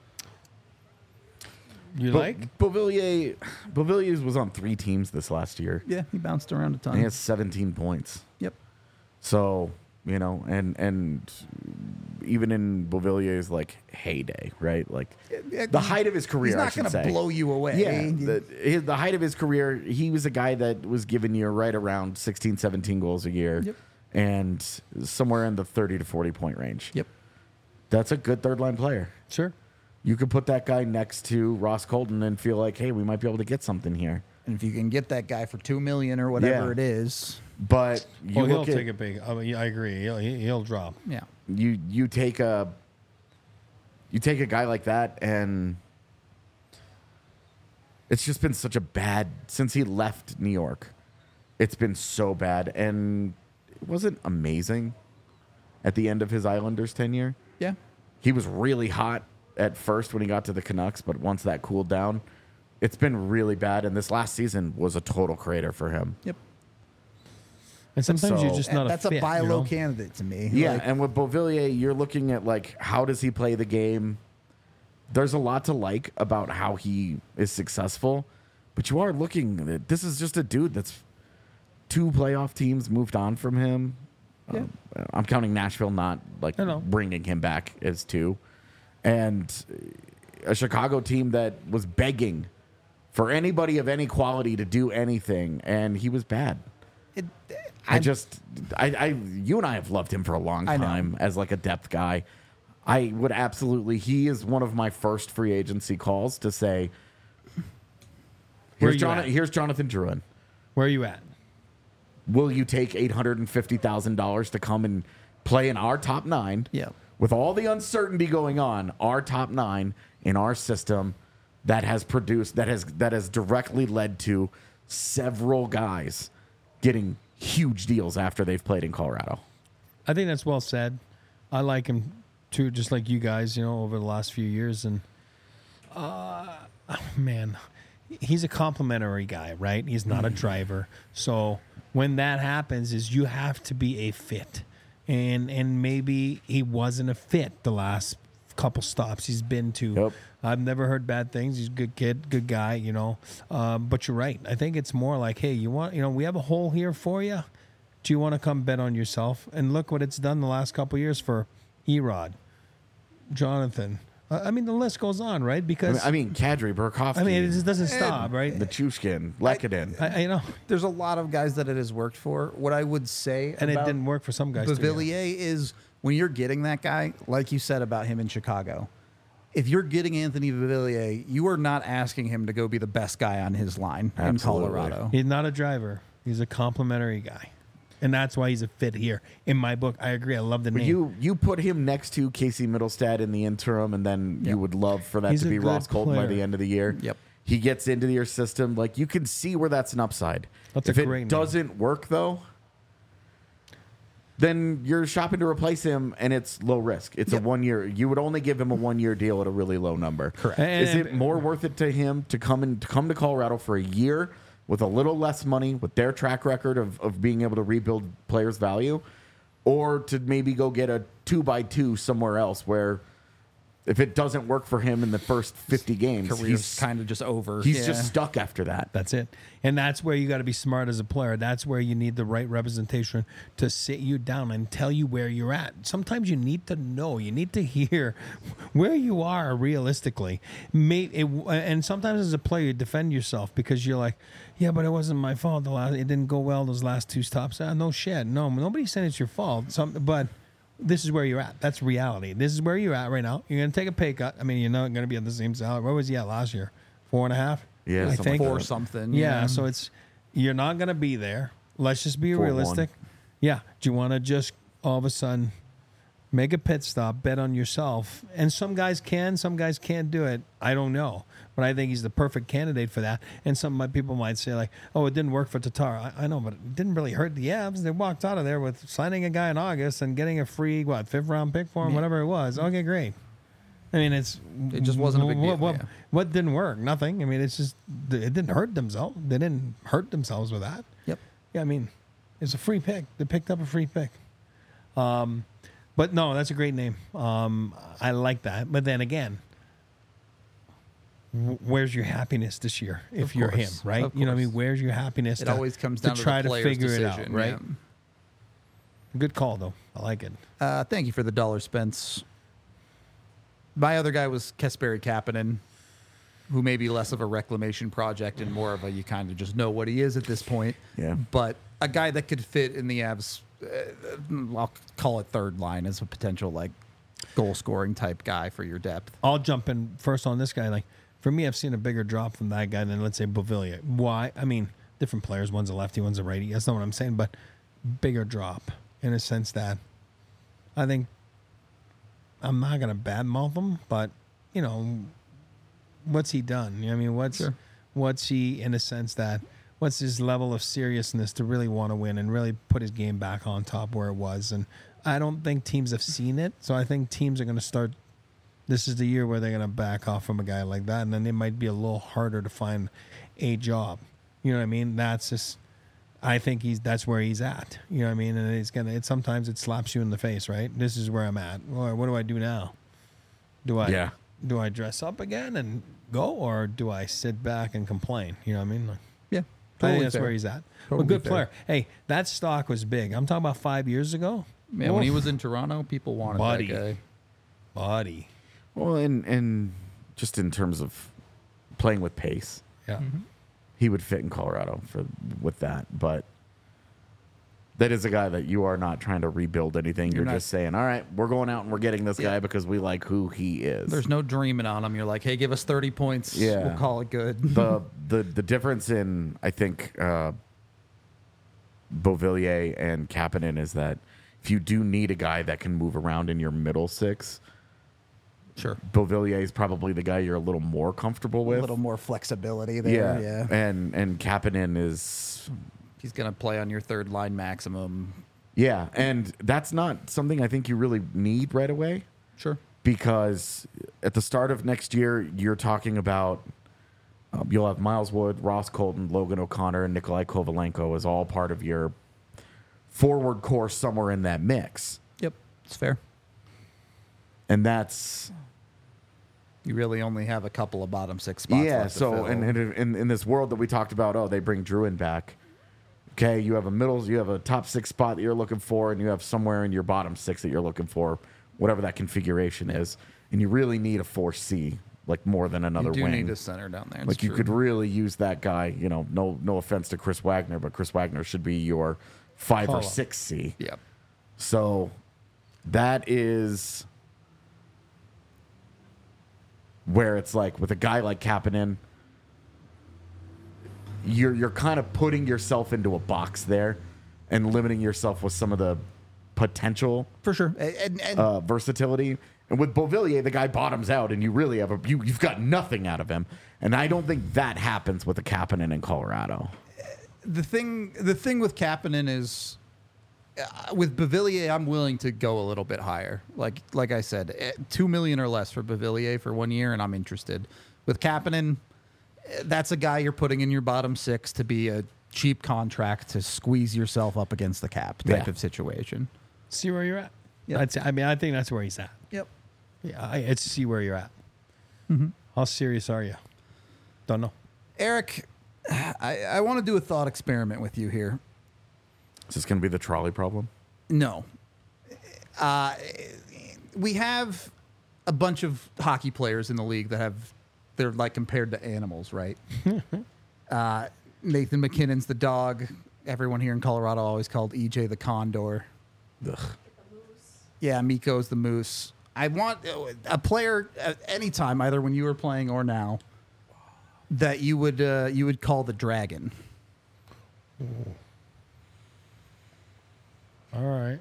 You like? Beauvillier was on 3 teams this last year. Yeah, he bounced around a ton. And he has 17 points. Yep. So, you know, and even in Beauvillier's like heyday, right? Like the height of his career, He's I not should going to say. blow you away. Yeah, the height of his career, he was a guy that was giving you right around 16, 17 goals a year. Yep. And somewhere in the 30 to 40 point range. Yep. That's a good third line player. Sure. You could put that guy next to Ross Colton and feel like, hey, we might be able to get something here. And if you can get that guy for $2 million or whatever Yeah. it is, But you He'll look at, take a big. I mean, I agree. He'll drop. yeah. you take a guy like that, and it's just been such a bad since he left New York. It's been so bad, and it wasn't amazing at the end of his Islanders tenure. Yeah. He was really hot at first when he got to the Canucks, but once that cooled down, it's been really bad. And this last season was a total crater for him. Yep. And sometimes you're So- just not That's a fit. a buy you low know? candidate to me. Yeah, Like, and with Beauvillier, you're looking at like how does he play the game? There's a lot to like about how he is successful, but you are looking at this is just a dude that's 2 playoff teams moved on from him. Yeah. I'm counting Nashville, not like I know. bringing him back as 2, and a Chicago team that was begging for anybody of any quality to do anything, and he was bad. it, You and I have loved him for a long I know. time as like a depth guy. I would absolutely. He is one of my first free agency calls to say, Where here's you at? Here's Jonathan Drouin. Where are you at? Will you take $850,000 to come and play in our top 9? Yeah. With all the uncertainty going on, our top 9 in our system that has produced that has directly led to several guys getting huge deals after they've played in Colorado. I think that's well said. I like him too, just like you guys, you know, over the last few years. And man, he's a complimentary guy, right? He's not a driver. So when that happens, is you have to be a fit, and maybe he wasn't a fit the last couple stops he's been to. Yep. I've never heard bad things. He's a good kid, good guy, you know. But you're right. I think it's more like, hey, we have a hole here for you. Do you want to come bet on yourself? And look what it's done the last couple of years for Erod, Jonathan. I mean, the list goes on, right? Because I mean, Kadri, Burakovsky. I mean, it just doesn't stop, right? Nichushkin, Lekanen. I you know, there's a lot of guys that it has worked for. What I would say and it about didn't work for some guys. too, yeah. Beauvillier is when you're getting that guy, like you said about him in Chicago, if you're getting Anthony Beauvillier, you are not asking him to go be the best guy on his line Absolutely. in Colorado. He's not a driver. He's a complimentary guy, and that's why he's a fit here. In my book, I agree. I love the But name. you put him next to Casey Middlestad in the interim, and then Yep. you would love for that He's to a be good Ross Colton by player. the end of the year. Yep. He gets into your system. Like, you can see where that's an upside. That's a if great it name. doesn't work, though, then you're shopping to replace him, and it's low risk. It's a 1 year. You would only give him a 1 year deal at a really low number. Correct. Is it more worth it to him to come to Colorado for a year with a little less money, with their track record of being able to rebuild players' value, or to maybe go get a 2x2 somewhere else where, if it doesn't work for him in the first 50 games, Career's he's kind of just over. He's just stuck after that. That's it. And that's where you got to be smart as a player. That's where you need the right representation to sit you down and tell you where you're at. Sometimes you need to know. You need to hear where you are realistically. And sometimes as a player, you defend yourself because you're like, yeah, but it wasn't my fault. It didn't go well those last two stops. No shit. No, nobody's saying it's your fault. But this is where you're at. That's reality. This is where you're at right now. You're going to take a pay cut. I mean, you're not going to be at the same salary. What was he at last year? 4.5? Yeah, I something think. like Or that. something. Yeah, so you're not going to be there. Let's just be 4-1. realistic. Yeah. Do you want to just all of a sudden make a pit stop, bet on yourself? And some guys can, some guys can't do it. I don't know. But I think he's the perfect candidate for that. And some people might say, like, oh, it didn't work for Tatar. I know, but it didn't really hurt the Avs. They walked out of there with signing a guy in August and getting a free, fifth round pick for him, whatever it was. Okay, great. I mean, it just wasn't a big deal, What didn't work? Nothing. I mean, it's just, it didn't hurt themselves. They didn't hurt themselves with that. Yep. Yeah, I mean, it's a free pick. They picked up a free pick. But no, that's a great name. I like that. But then again, where's your happiness this year if you're him, course. right? Of You know what I mean? course. Where's your happiness? It always comes down to try the to player's figure it out, decision, right? yeah. Good call, though. I like it. Thank you for the dollar, Spence. My other guy was Kasperi Kapanen, who may be less of a reclamation project and more of a you kind of just know what he is at this point. Yeah. But a guy that could fit in the Avs, I'll call it third line as a potential like goal scoring type guy for your depth. I'll jump in first on this guy. Like, for me, I've seen a bigger drop from that guy than, let's say, Beauvillier. Why? I mean, different players. One's a lefty, one's a righty. That's not what I'm saying, but bigger drop in a sense that I think I'm not going to badmouth him, but, you know, what's he done? You know what I mean? What's he, in a sense that, what's his level of seriousness to really want to win and really put his game back on top where it was? And I don't think teams have seen it, so I think teams are going to start. This is the year where they're going to back off from a guy like that, and then it might be a little harder to find a job. You know what I mean? That's just, I think that's where he's at. You know what I mean? And sometimes it slaps you in the face, right? This is where I'm at. Well, what do I do now? Do I dress up again and go, or do I sit back and complain? You know what I mean? Like, Yeah. I think that's where he's at. Totally a good fair. player. Hey, that stock was big. I'm talking about 5 years ago. Man, when he was in Toronto, people wanted Buddy. that guy. Buddy. Well, and just in terms of playing with pace, Yeah. he would fit in Colorado with that. But that is a guy that you are not trying to rebuild anything. You're not- just saying, all right, we're going out and we're getting this guy because we like who he is. There's no dreaming on him. You're like, hey, give us 30 points. Yeah. We'll call it good. the difference in, I think, Beauvillier and Kapanen is that if you do need a guy that can move around in your middle six, Sure. Beauvillier is probably the guy you're a little more comfortable with. A little more flexibility there. Yeah. And Kapanen is, He's going to play on your third line maximum. yeah, and that's not something I think you really need right away, Sure. because at the start of next year, you're talking about you'll have Miles Wood, Ross Colton, Logan O'Connor, and Nikolai Kovalenko as all part of your forward core somewhere in that mix. Yep. It's fair. And that's, You really only have a couple of bottom six spots yeah, left to so fill. in this world that we talked about, oh, they bring Druin back. Okay, you have a top six spot that you're looking for, and you have somewhere in your bottom six that you're looking for, whatever that configuration is. And you really need a 4C, like more than another you do wing. need a center down there. It's Like you true. could really use that guy. You know, no offense to Chris Wagner, but Chris Wagner should be your 5 or Call-up. 6C. Yep. So that is where it's like with a guy like Kapanen, you're kind of putting yourself into a box there and limiting yourself with some of the potential For sure. And versatility. And with Beauvillier, the guy bottoms out, and you really have you've got nothing out of him. And I don't think that happens with a Kapanen in Colorado. the thing with Kapanen is with Beauvillier, I'm willing to go a little bit higher. Like I said, $2 million or less for Beauvillier for 1 year, and I'm interested. With Kapanen, that's a guy you're putting in your bottom six to be a cheap contract to squeeze yourself up against the cap type of situation. See where you're at. Yep. I think that's where he's at. Yep. Yeah, it's see where you're at. How serious are you? Don't know. Eric, I want to do a thought experiment with you here. Is this going to be the trolley problem? No. We have a bunch of hockey players in the league that they're like compared to animals, right? Nathan McKinnon's the dog. Everyone here in Colorado always called EJ the condor. Ugh. Yeah, Mikko's the moose. I want a player at any time, either when you were playing or now, that you would call the dragon. All right.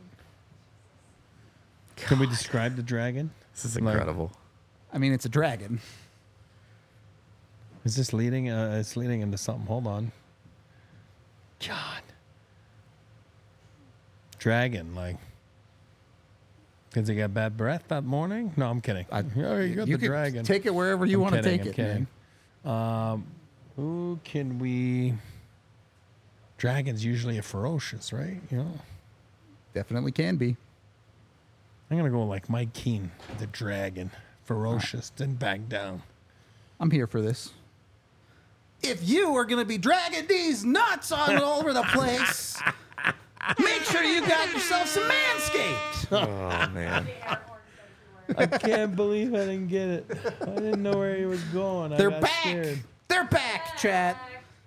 Can we describe the dragon? This is incredible. I mean, it's a dragon. Is this leading? It's leading into something. Hold on. God. Dragon, like. Because he got bad breath that morning? No, I'm kidding. You got the could dragon. Take it wherever you want to take I'm it. kidding. Man. Who can we? Dragon's usually a ferocious, right? You know. Definitely can be. I'm gonna go like Mike Keane, the dragon, ferocious, didn't back down. I'm here for this. If you are going to be dragging these nuts on all over the place, make sure you got yourself some Manscaped. Oh, man. I can't believe I didn't get it. I didn't know where he was going. They're back. They're back, chat.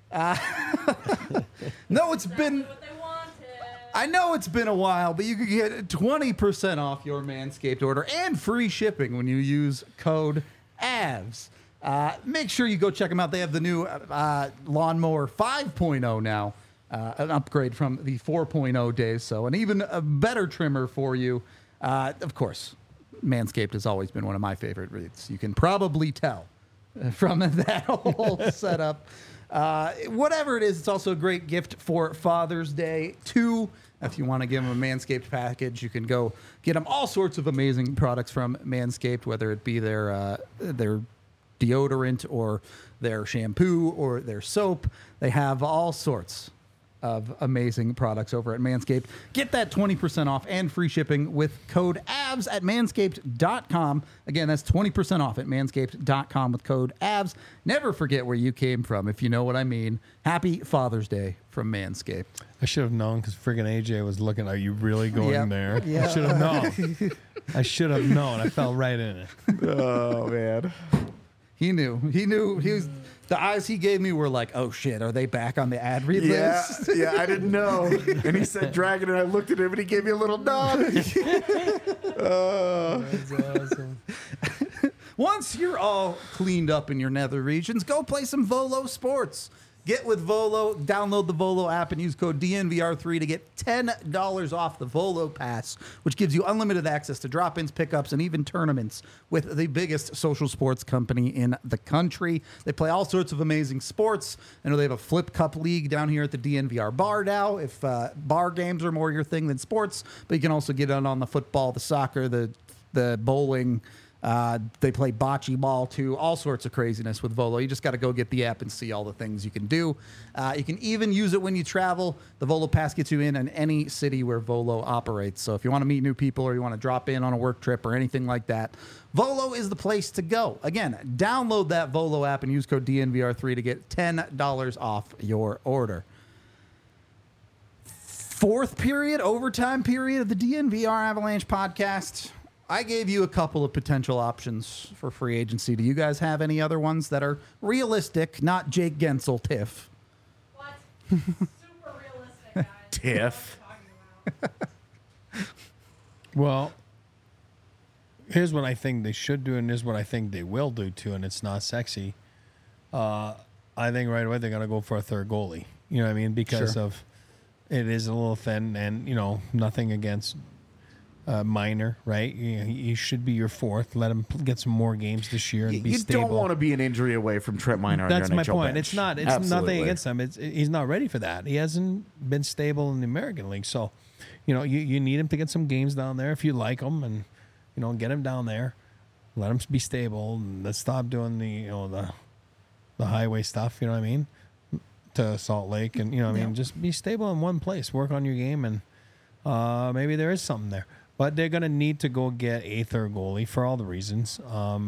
No, it's been. What they wanted. I know it's been a while, but you can get 20% off your Manscaped order and free shipping when you use code AVS. Make sure you go check them out. They have the new Lawnmower 5.0 now, an upgrade from the 4.0 days. So an even a better trimmer for you. Of course, Manscaped has always been one of my favorite reads. You can probably tell from that whole setup. Whatever it is, it's also a great gift for Father's Day, too. If you want to give them a Manscaped package, you can go get them all sorts of amazing products from Manscaped, whether it be their deodorant or their shampoo or their soap. They have all sorts of amazing products over at Manscaped. Get that 20% off and free shipping with code AVS at manscaped.com. Again, that's 20% off at manscaped.com with code AVS. Never forget where you came from, if you know what I mean. Happy Father's Day from Manscaped. I should have known because friggin' AJ was looking. Are you really going Yep. there? Yeah. I should have known. I should have known. I fell right in it. Oh, man. He knew. He knew. He was. The eyes he gave me were like, "Oh shit, are they back on the ad read Yeah, list?" yeah, I didn't know. And he said dragon, and I looked at him, and he gave me a little nod. That's awesome. Once you're all cleaned up in your nether regions, go play some Volo Sports. Get with Volo, download the Volo app, and use code DNVR3 to get $10 off the Volo Pass, which gives you unlimited access to drop-ins, pickups, and even tournaments with the biggest social sports company in the country. They play all sorts of amazing sports. I know they have a Flip Cup League down here at the DNVR bar now, if bar games are more your thing than sports. But you can also get in on the football, the soccer, the bowling. They play bocce ball too, all sorts of craziness with Volo. You just got to go get the app and see all the things you can do. You can even use it when you travel. The Volo Pass gets you in any city where Volo operates. So if you want to meet new people or you want to drop in on a work trip or anything like that, Volo is the place to go. Again, download that Volo app and use code DNVR3 to get $10 off your order. Fourth period, overtime period of the DNVR Avalanche podcast. I gave you a couple of potential options for free agency. Do you guys have any other ones that are realistic, not Jake Gensel tiff? What? Super realistic, guys. Tiff. What are you talking about? Well, here's what I think they should do, and here's what I think they will do too, and it's not sexy. I think right away they're gonna go for a third goalie. You know what I mean? Because Sure. of it is a little thin, and nothing against Minor, right? He should be your fourth. Let him get some more games this year and be You stable. don't want to be an injury away from Trent Minor. That's on your my NHL point. bench. It's not. It's Absolutely. nothing against him. He's not ready for that. He hasn't been stable in the American League. So you need him to get some games down there if you like him, and get him down there, let him be stable, and let's stop doing the highway stuff. You know what I mean? To Salt Lake, and I mean, just be stable in one place, work on your game, and maybe there is something there. But they're going to need to go get a third goalie for all the reasons,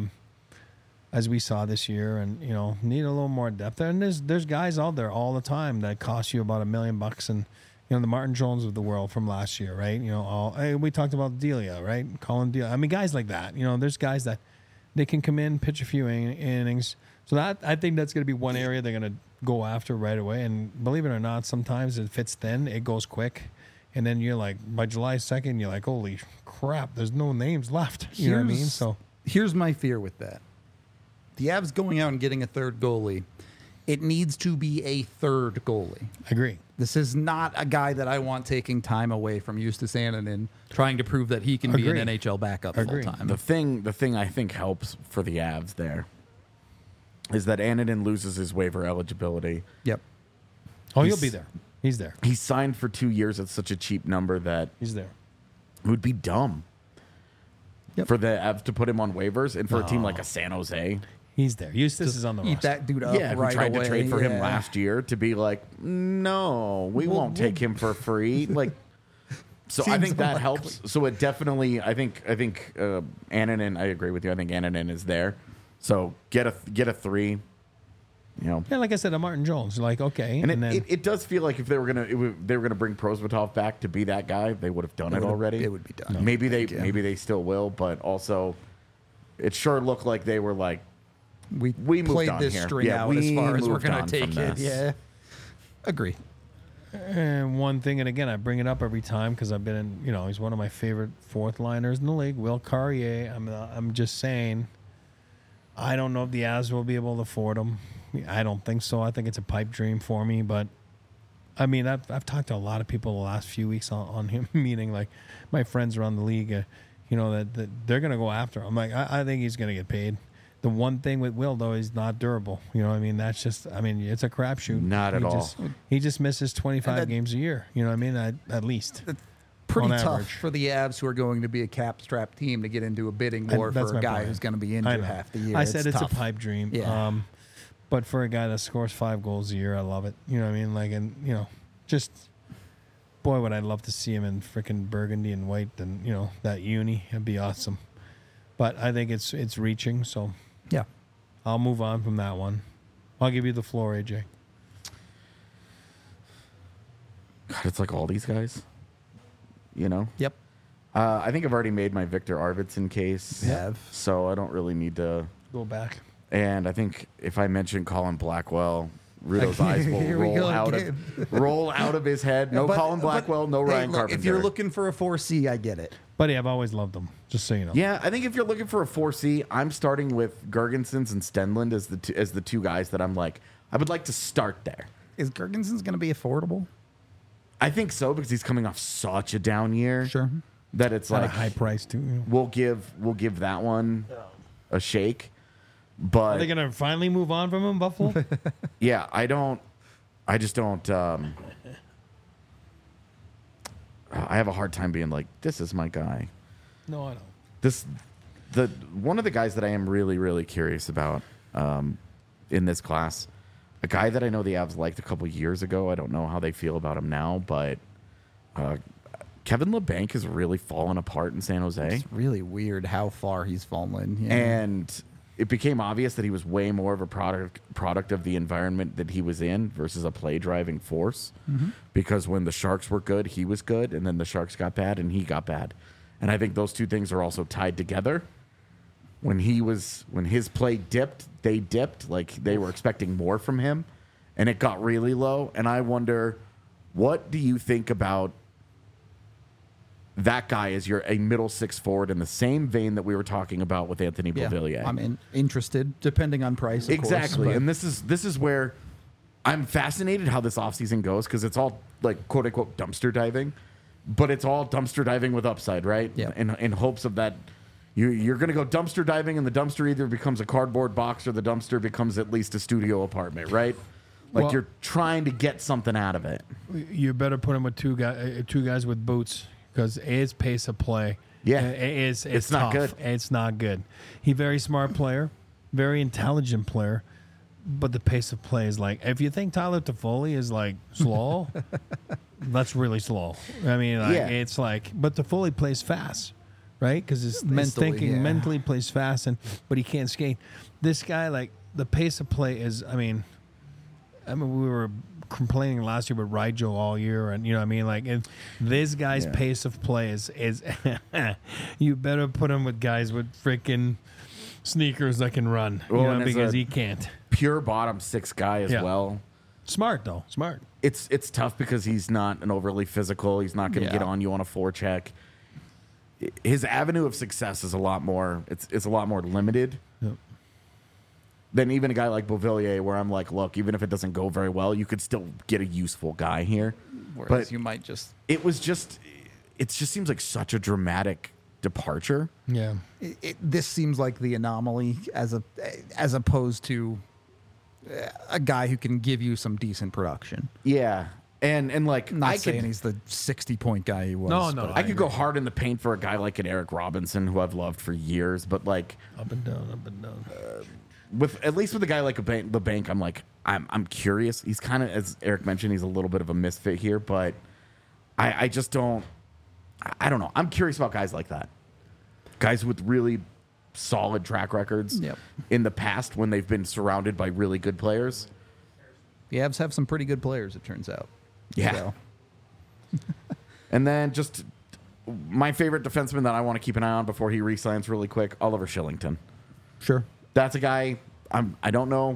as we saw this year, and need a little more depth there. And there's guys out there all the time that cost you about $1 million, and the Martin Jones of the world from last year, right? We talked about Delia, right? Colin Delia. I mean, guys like that. There's guys that they can come in, pitch a few innings. So that I think that's going to be one area they're going to go after right away. And believe it or not, sometimes it fits thin, it goes quick. And then you're like, by July 2nd, you're like, holy crap, there's no names left. You know what I mean? So here's my fear with that. The Avs going out and getting a third goalie, it needs to be a third goalie. I agree. This is not a guy that I want taking time away from Justus Annunen, trying to prove that he can be an NHL backup full time. The thing I think helps for the Avs there is that Annunen loses his waiver eligibility. Yep. Oh, he'll be there. He's there. He signed for 2 years at such a cheap number that He's there. it would be dumb for the Avs to put him on waivers, and for a team like a San Jose. He's there. Eustace is on the Eat roster. that dude up Yeah, right we tried away. to trade for him last year to be like, no, we won't take him for free. Like, so I Seems think that unlikely. helps. So it definitely, I think Annunen. I agree with you. I think Annunen is there. So get a 3. Yeah, like I said, a Martin Jones. Like, okay. And then it does feel like if they were gonna bring Prosvetov back to be that guy, they would have done it already. It would be done. Maybe they still will, but also it sure looked like they were like, we moved played on this here. string Yeah, out as we far as we're moved going on to take from it. this. Yeah. Agree. And one thing, and again, I bring it up every time because I've been in, he's one of my favorite fourth liners in the league, Will Carrier. I'm just saying, I don't know if the Avs will be able to afford him. I don't think so. I think it's a pipe dream for me, but I mean, I've talked to a lot of people the last few weeks on him, meaning like my friends around the league, that they're going to go after him. I'm like, I think he's going to get paid. The one thing with Will, though, he's not durable. That's just, it's a crapshoot. Not at all. He just misses 25 games a year. You know what I mean? At least. Pretty on tough average. for the Avs, who are going to be a cap-strapped team, to get into a bidding war That's for a my guy point. who's going to be I injured know. half the year. I said it's tough. a pipe dream. Yeah. But for a guy that scores 5 goals a year, I love it. You know what I mean? Like, and just boy, would I love to see him in freaking burgundy and white, and that uni. It'd be awesome. But I think it's reaching, so Yeah. I'll move on from that one. I'll give you the floor, AJ. God, it's like all these guys. Yep. I think I've already made my Victor Arvidsson case. You have. So I don't really need to. Go back. And I think if I mention Colin Blackwell, Rudo's Okay, eyes will here we go roll out of his head. No But- Colin Blackwell, no hey, Ryan look, Carpenter. if you're looking for a 4C, I get it. Buddy, I've always loved them, just so you know. Yeah, I think if you're looking for a 4C, I'm starting with Gergensons and Stenlund as the two guys that I'm like, I would like to start there. Is Gergensons going to be affordable? I think so because he's coming off such a down year. Sure. That it's At a like high price, too. we'll give that one a shake. Are they But going to finally move on from him, Buffalo? yeah, I just don't. I have a hard time being like, this is my guy. No, I don't. One of the guys that I am really, really curious about in this class, a guy that I know the Avs liked a couple years ago. I don't know how they feel about him now, but Kevin LeBanc has really fallen apart in San Jose. It's really weird how far he's fallen. Yeah. And it became obvious that he was way more of a product of the environment that he was in versus a play driving force. Because when the Sharks were good, he was good, and then the Sharks got bad, and he got bad. And I think those two things are also tied together. When his play dipped, they dipped. Like they were expecting more from him, and it got really low. And I wonder, what do you think about that guy as a middle six forward in the same vein that we were talking about with Anthony Beauvillier? I'm interested, depending on price. Of Exactly. course, And this is where I'm fascinated how this offseason goes, because it's all like quote unquote dumpster diving, but it's all dumpster diving with upside, right? Yeah. In hopes of that you're going to go dumpster diving, and the dumpster either becomes a cardboard box or the dumpster becomes at least a studio apartment, right? Like Well- you're trying to get something out of it. You better put him with two guys with boots because his pace of play. Yeah. It's not tough. good. It's not good. He's very smart player, very intelligent player, but the pace of play is like. If you think Tyler Toffoli is like slow, that's really slow. I mean, like, Yeah. it's like, but Toffoli plays fast, right? Because his Mentally, thinking yeah. mentally plays fast, but he can't skate. This guy, like the pace of play is. I mean, we were complaining last year with Rigel all year, and you know what I mean. Like this guy's Yeah. pace of play is you better put him with guys with freaking sneakers that can run, Well, you know, and as because a- he can't. Pure bottom six guy as Yeah. well. Smart though, smart. It's tough because he's not an overly physical. He's not going to Yeah. get on you on a forecheck. His avenue of success is a lot more. It's a lot more limited Yep. than even a guy like Beauvillier, where I'm like, look, even if it doesn't go very well, you could still get a useful guy here. Whereas But you might just it just seems like such a dramatic departure. Yeah, this seems like the anomaly as opposed to a guy who can give you some decent production. Yeah, and like Not I saying could, he's the 60-point guy he was. No. but- I could go hard in the paint for a guy like an Eric Robinson, who I've loved for years, but like up and down, up and down. with at least with a guy like the bank, I'm like I'm curious. He's kind of, as Eric mentioned, he's a little bit of a misfit here, but I just don't. I don't know. I'm curious about guys like that, guys with really solid track records Yep. in the past when they've been surrounded by really good players. The Avs have some pretty good players, it turns out. Yeah. So, And then just my favorite defenseman that I want to keep an eye on before he re-signs really quick, Oliver Shillington. sure. That's a guy I don't know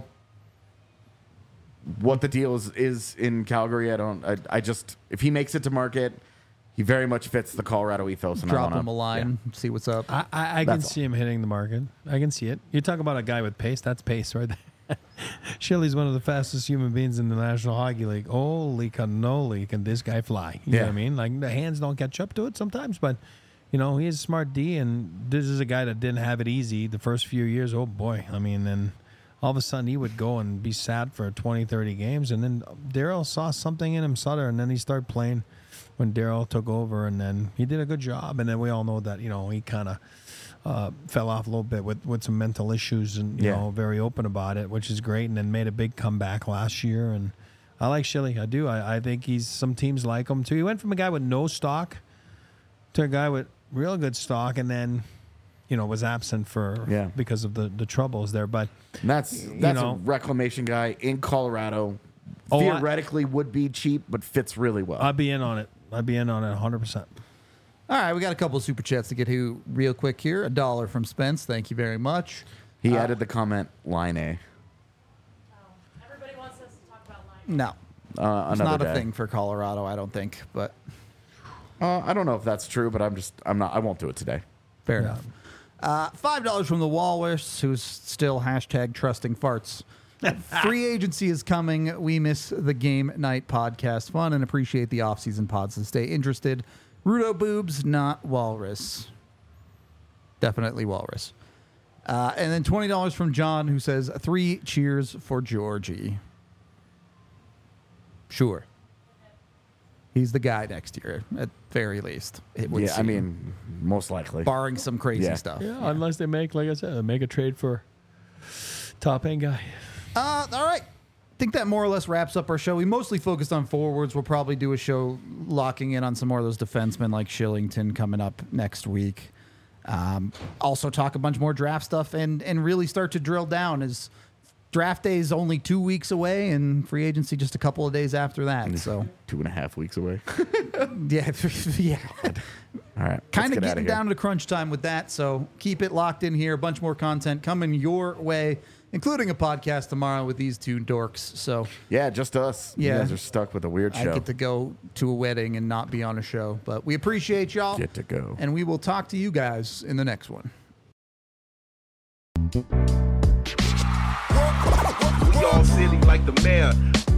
what the deal is in Calgary. I just, if he makes it to market, he very much fits the Colorado ethos. And Drop I wanna, him a line, see what's up. I can That's all. see him hitting the market. I can see it. You talk about a guy with pace. That's pace right there. Shilly's one of the fastest human beings in the National Hockey League. Holy cannoli, can this guy fly? You know what I Yeah. mean? Like the hands don't catch up to it sometimes, but you know, he is a smart D, and this is a guy that didn't have it easy the first few years. Oh boy. I mean, then all of a sudden he would go and be sat for 20, 30 games, and then Daryl saw something in him, Sutter, and then he started playing when Daryl took over, and then he did a good job. And then we all know that, you know, he kind of fell off a little bit with some mental issues, and you Yeah. know, very open about it, which is great. And then made a big comeback last year. And I like Shilly. I do. I think some teams like him too. He went from a guy with no stock to a guy with real good stock, and then you know was absent because of the troubles there. But And that's know. a reclamation guy in Colorado. Oh, Theoretically would be cheap, but fits really well. I'd be in on it. 100%. All right, we got a couple of super chats to get to real quick here. $1 from Spence. Thank you very much. He added the comment, line A. Everybody wants us to talk about line. No, it's Another not a day. thing for Colorado, I don't think, but I don't know if that's true, but I won't do it today. fair Yeah. enough. $5 from the Walrus, who's still #trusting farts. Free agency is coming. We miss the game night podcast fun and appreciate the off-season pods to stay interested. Rudo Boobs, not Walrus. Definitely Walrus. And then $20 from John, who says 3 cheers for Georgie. Sure. He's the guy next year, at very least. It would Yeah, I seem. mean, most likely. Barring some crazy Yeah. stuff. Yeah, unless they make, like I said, make a trade for top end guy. All right. I think that more or less wraps up our show. We mostly focused on forwards. We'll probably do a show locking in on some more of those defensemen like Shillington coming up next week. Also talk a bunch more draft stuff and really start to drill down as draft day is only 2 weeks away and free agency just a couple of days after that. So 2.5 weeks away. yeah, yeah. All right. Kind let's of get outta getting here. down to crunch time with that. So keep it locked in here. A bunch more content coming your way, including a podcast tomorrow with these two dorks. So Yeah, just us. Yeah. You guys are stuck with a weird I show. get to go to a wedding and not be on a show. But we appreciate y'all. Get to go. And we will talk to you guys in the next one. We all silly like the mayor.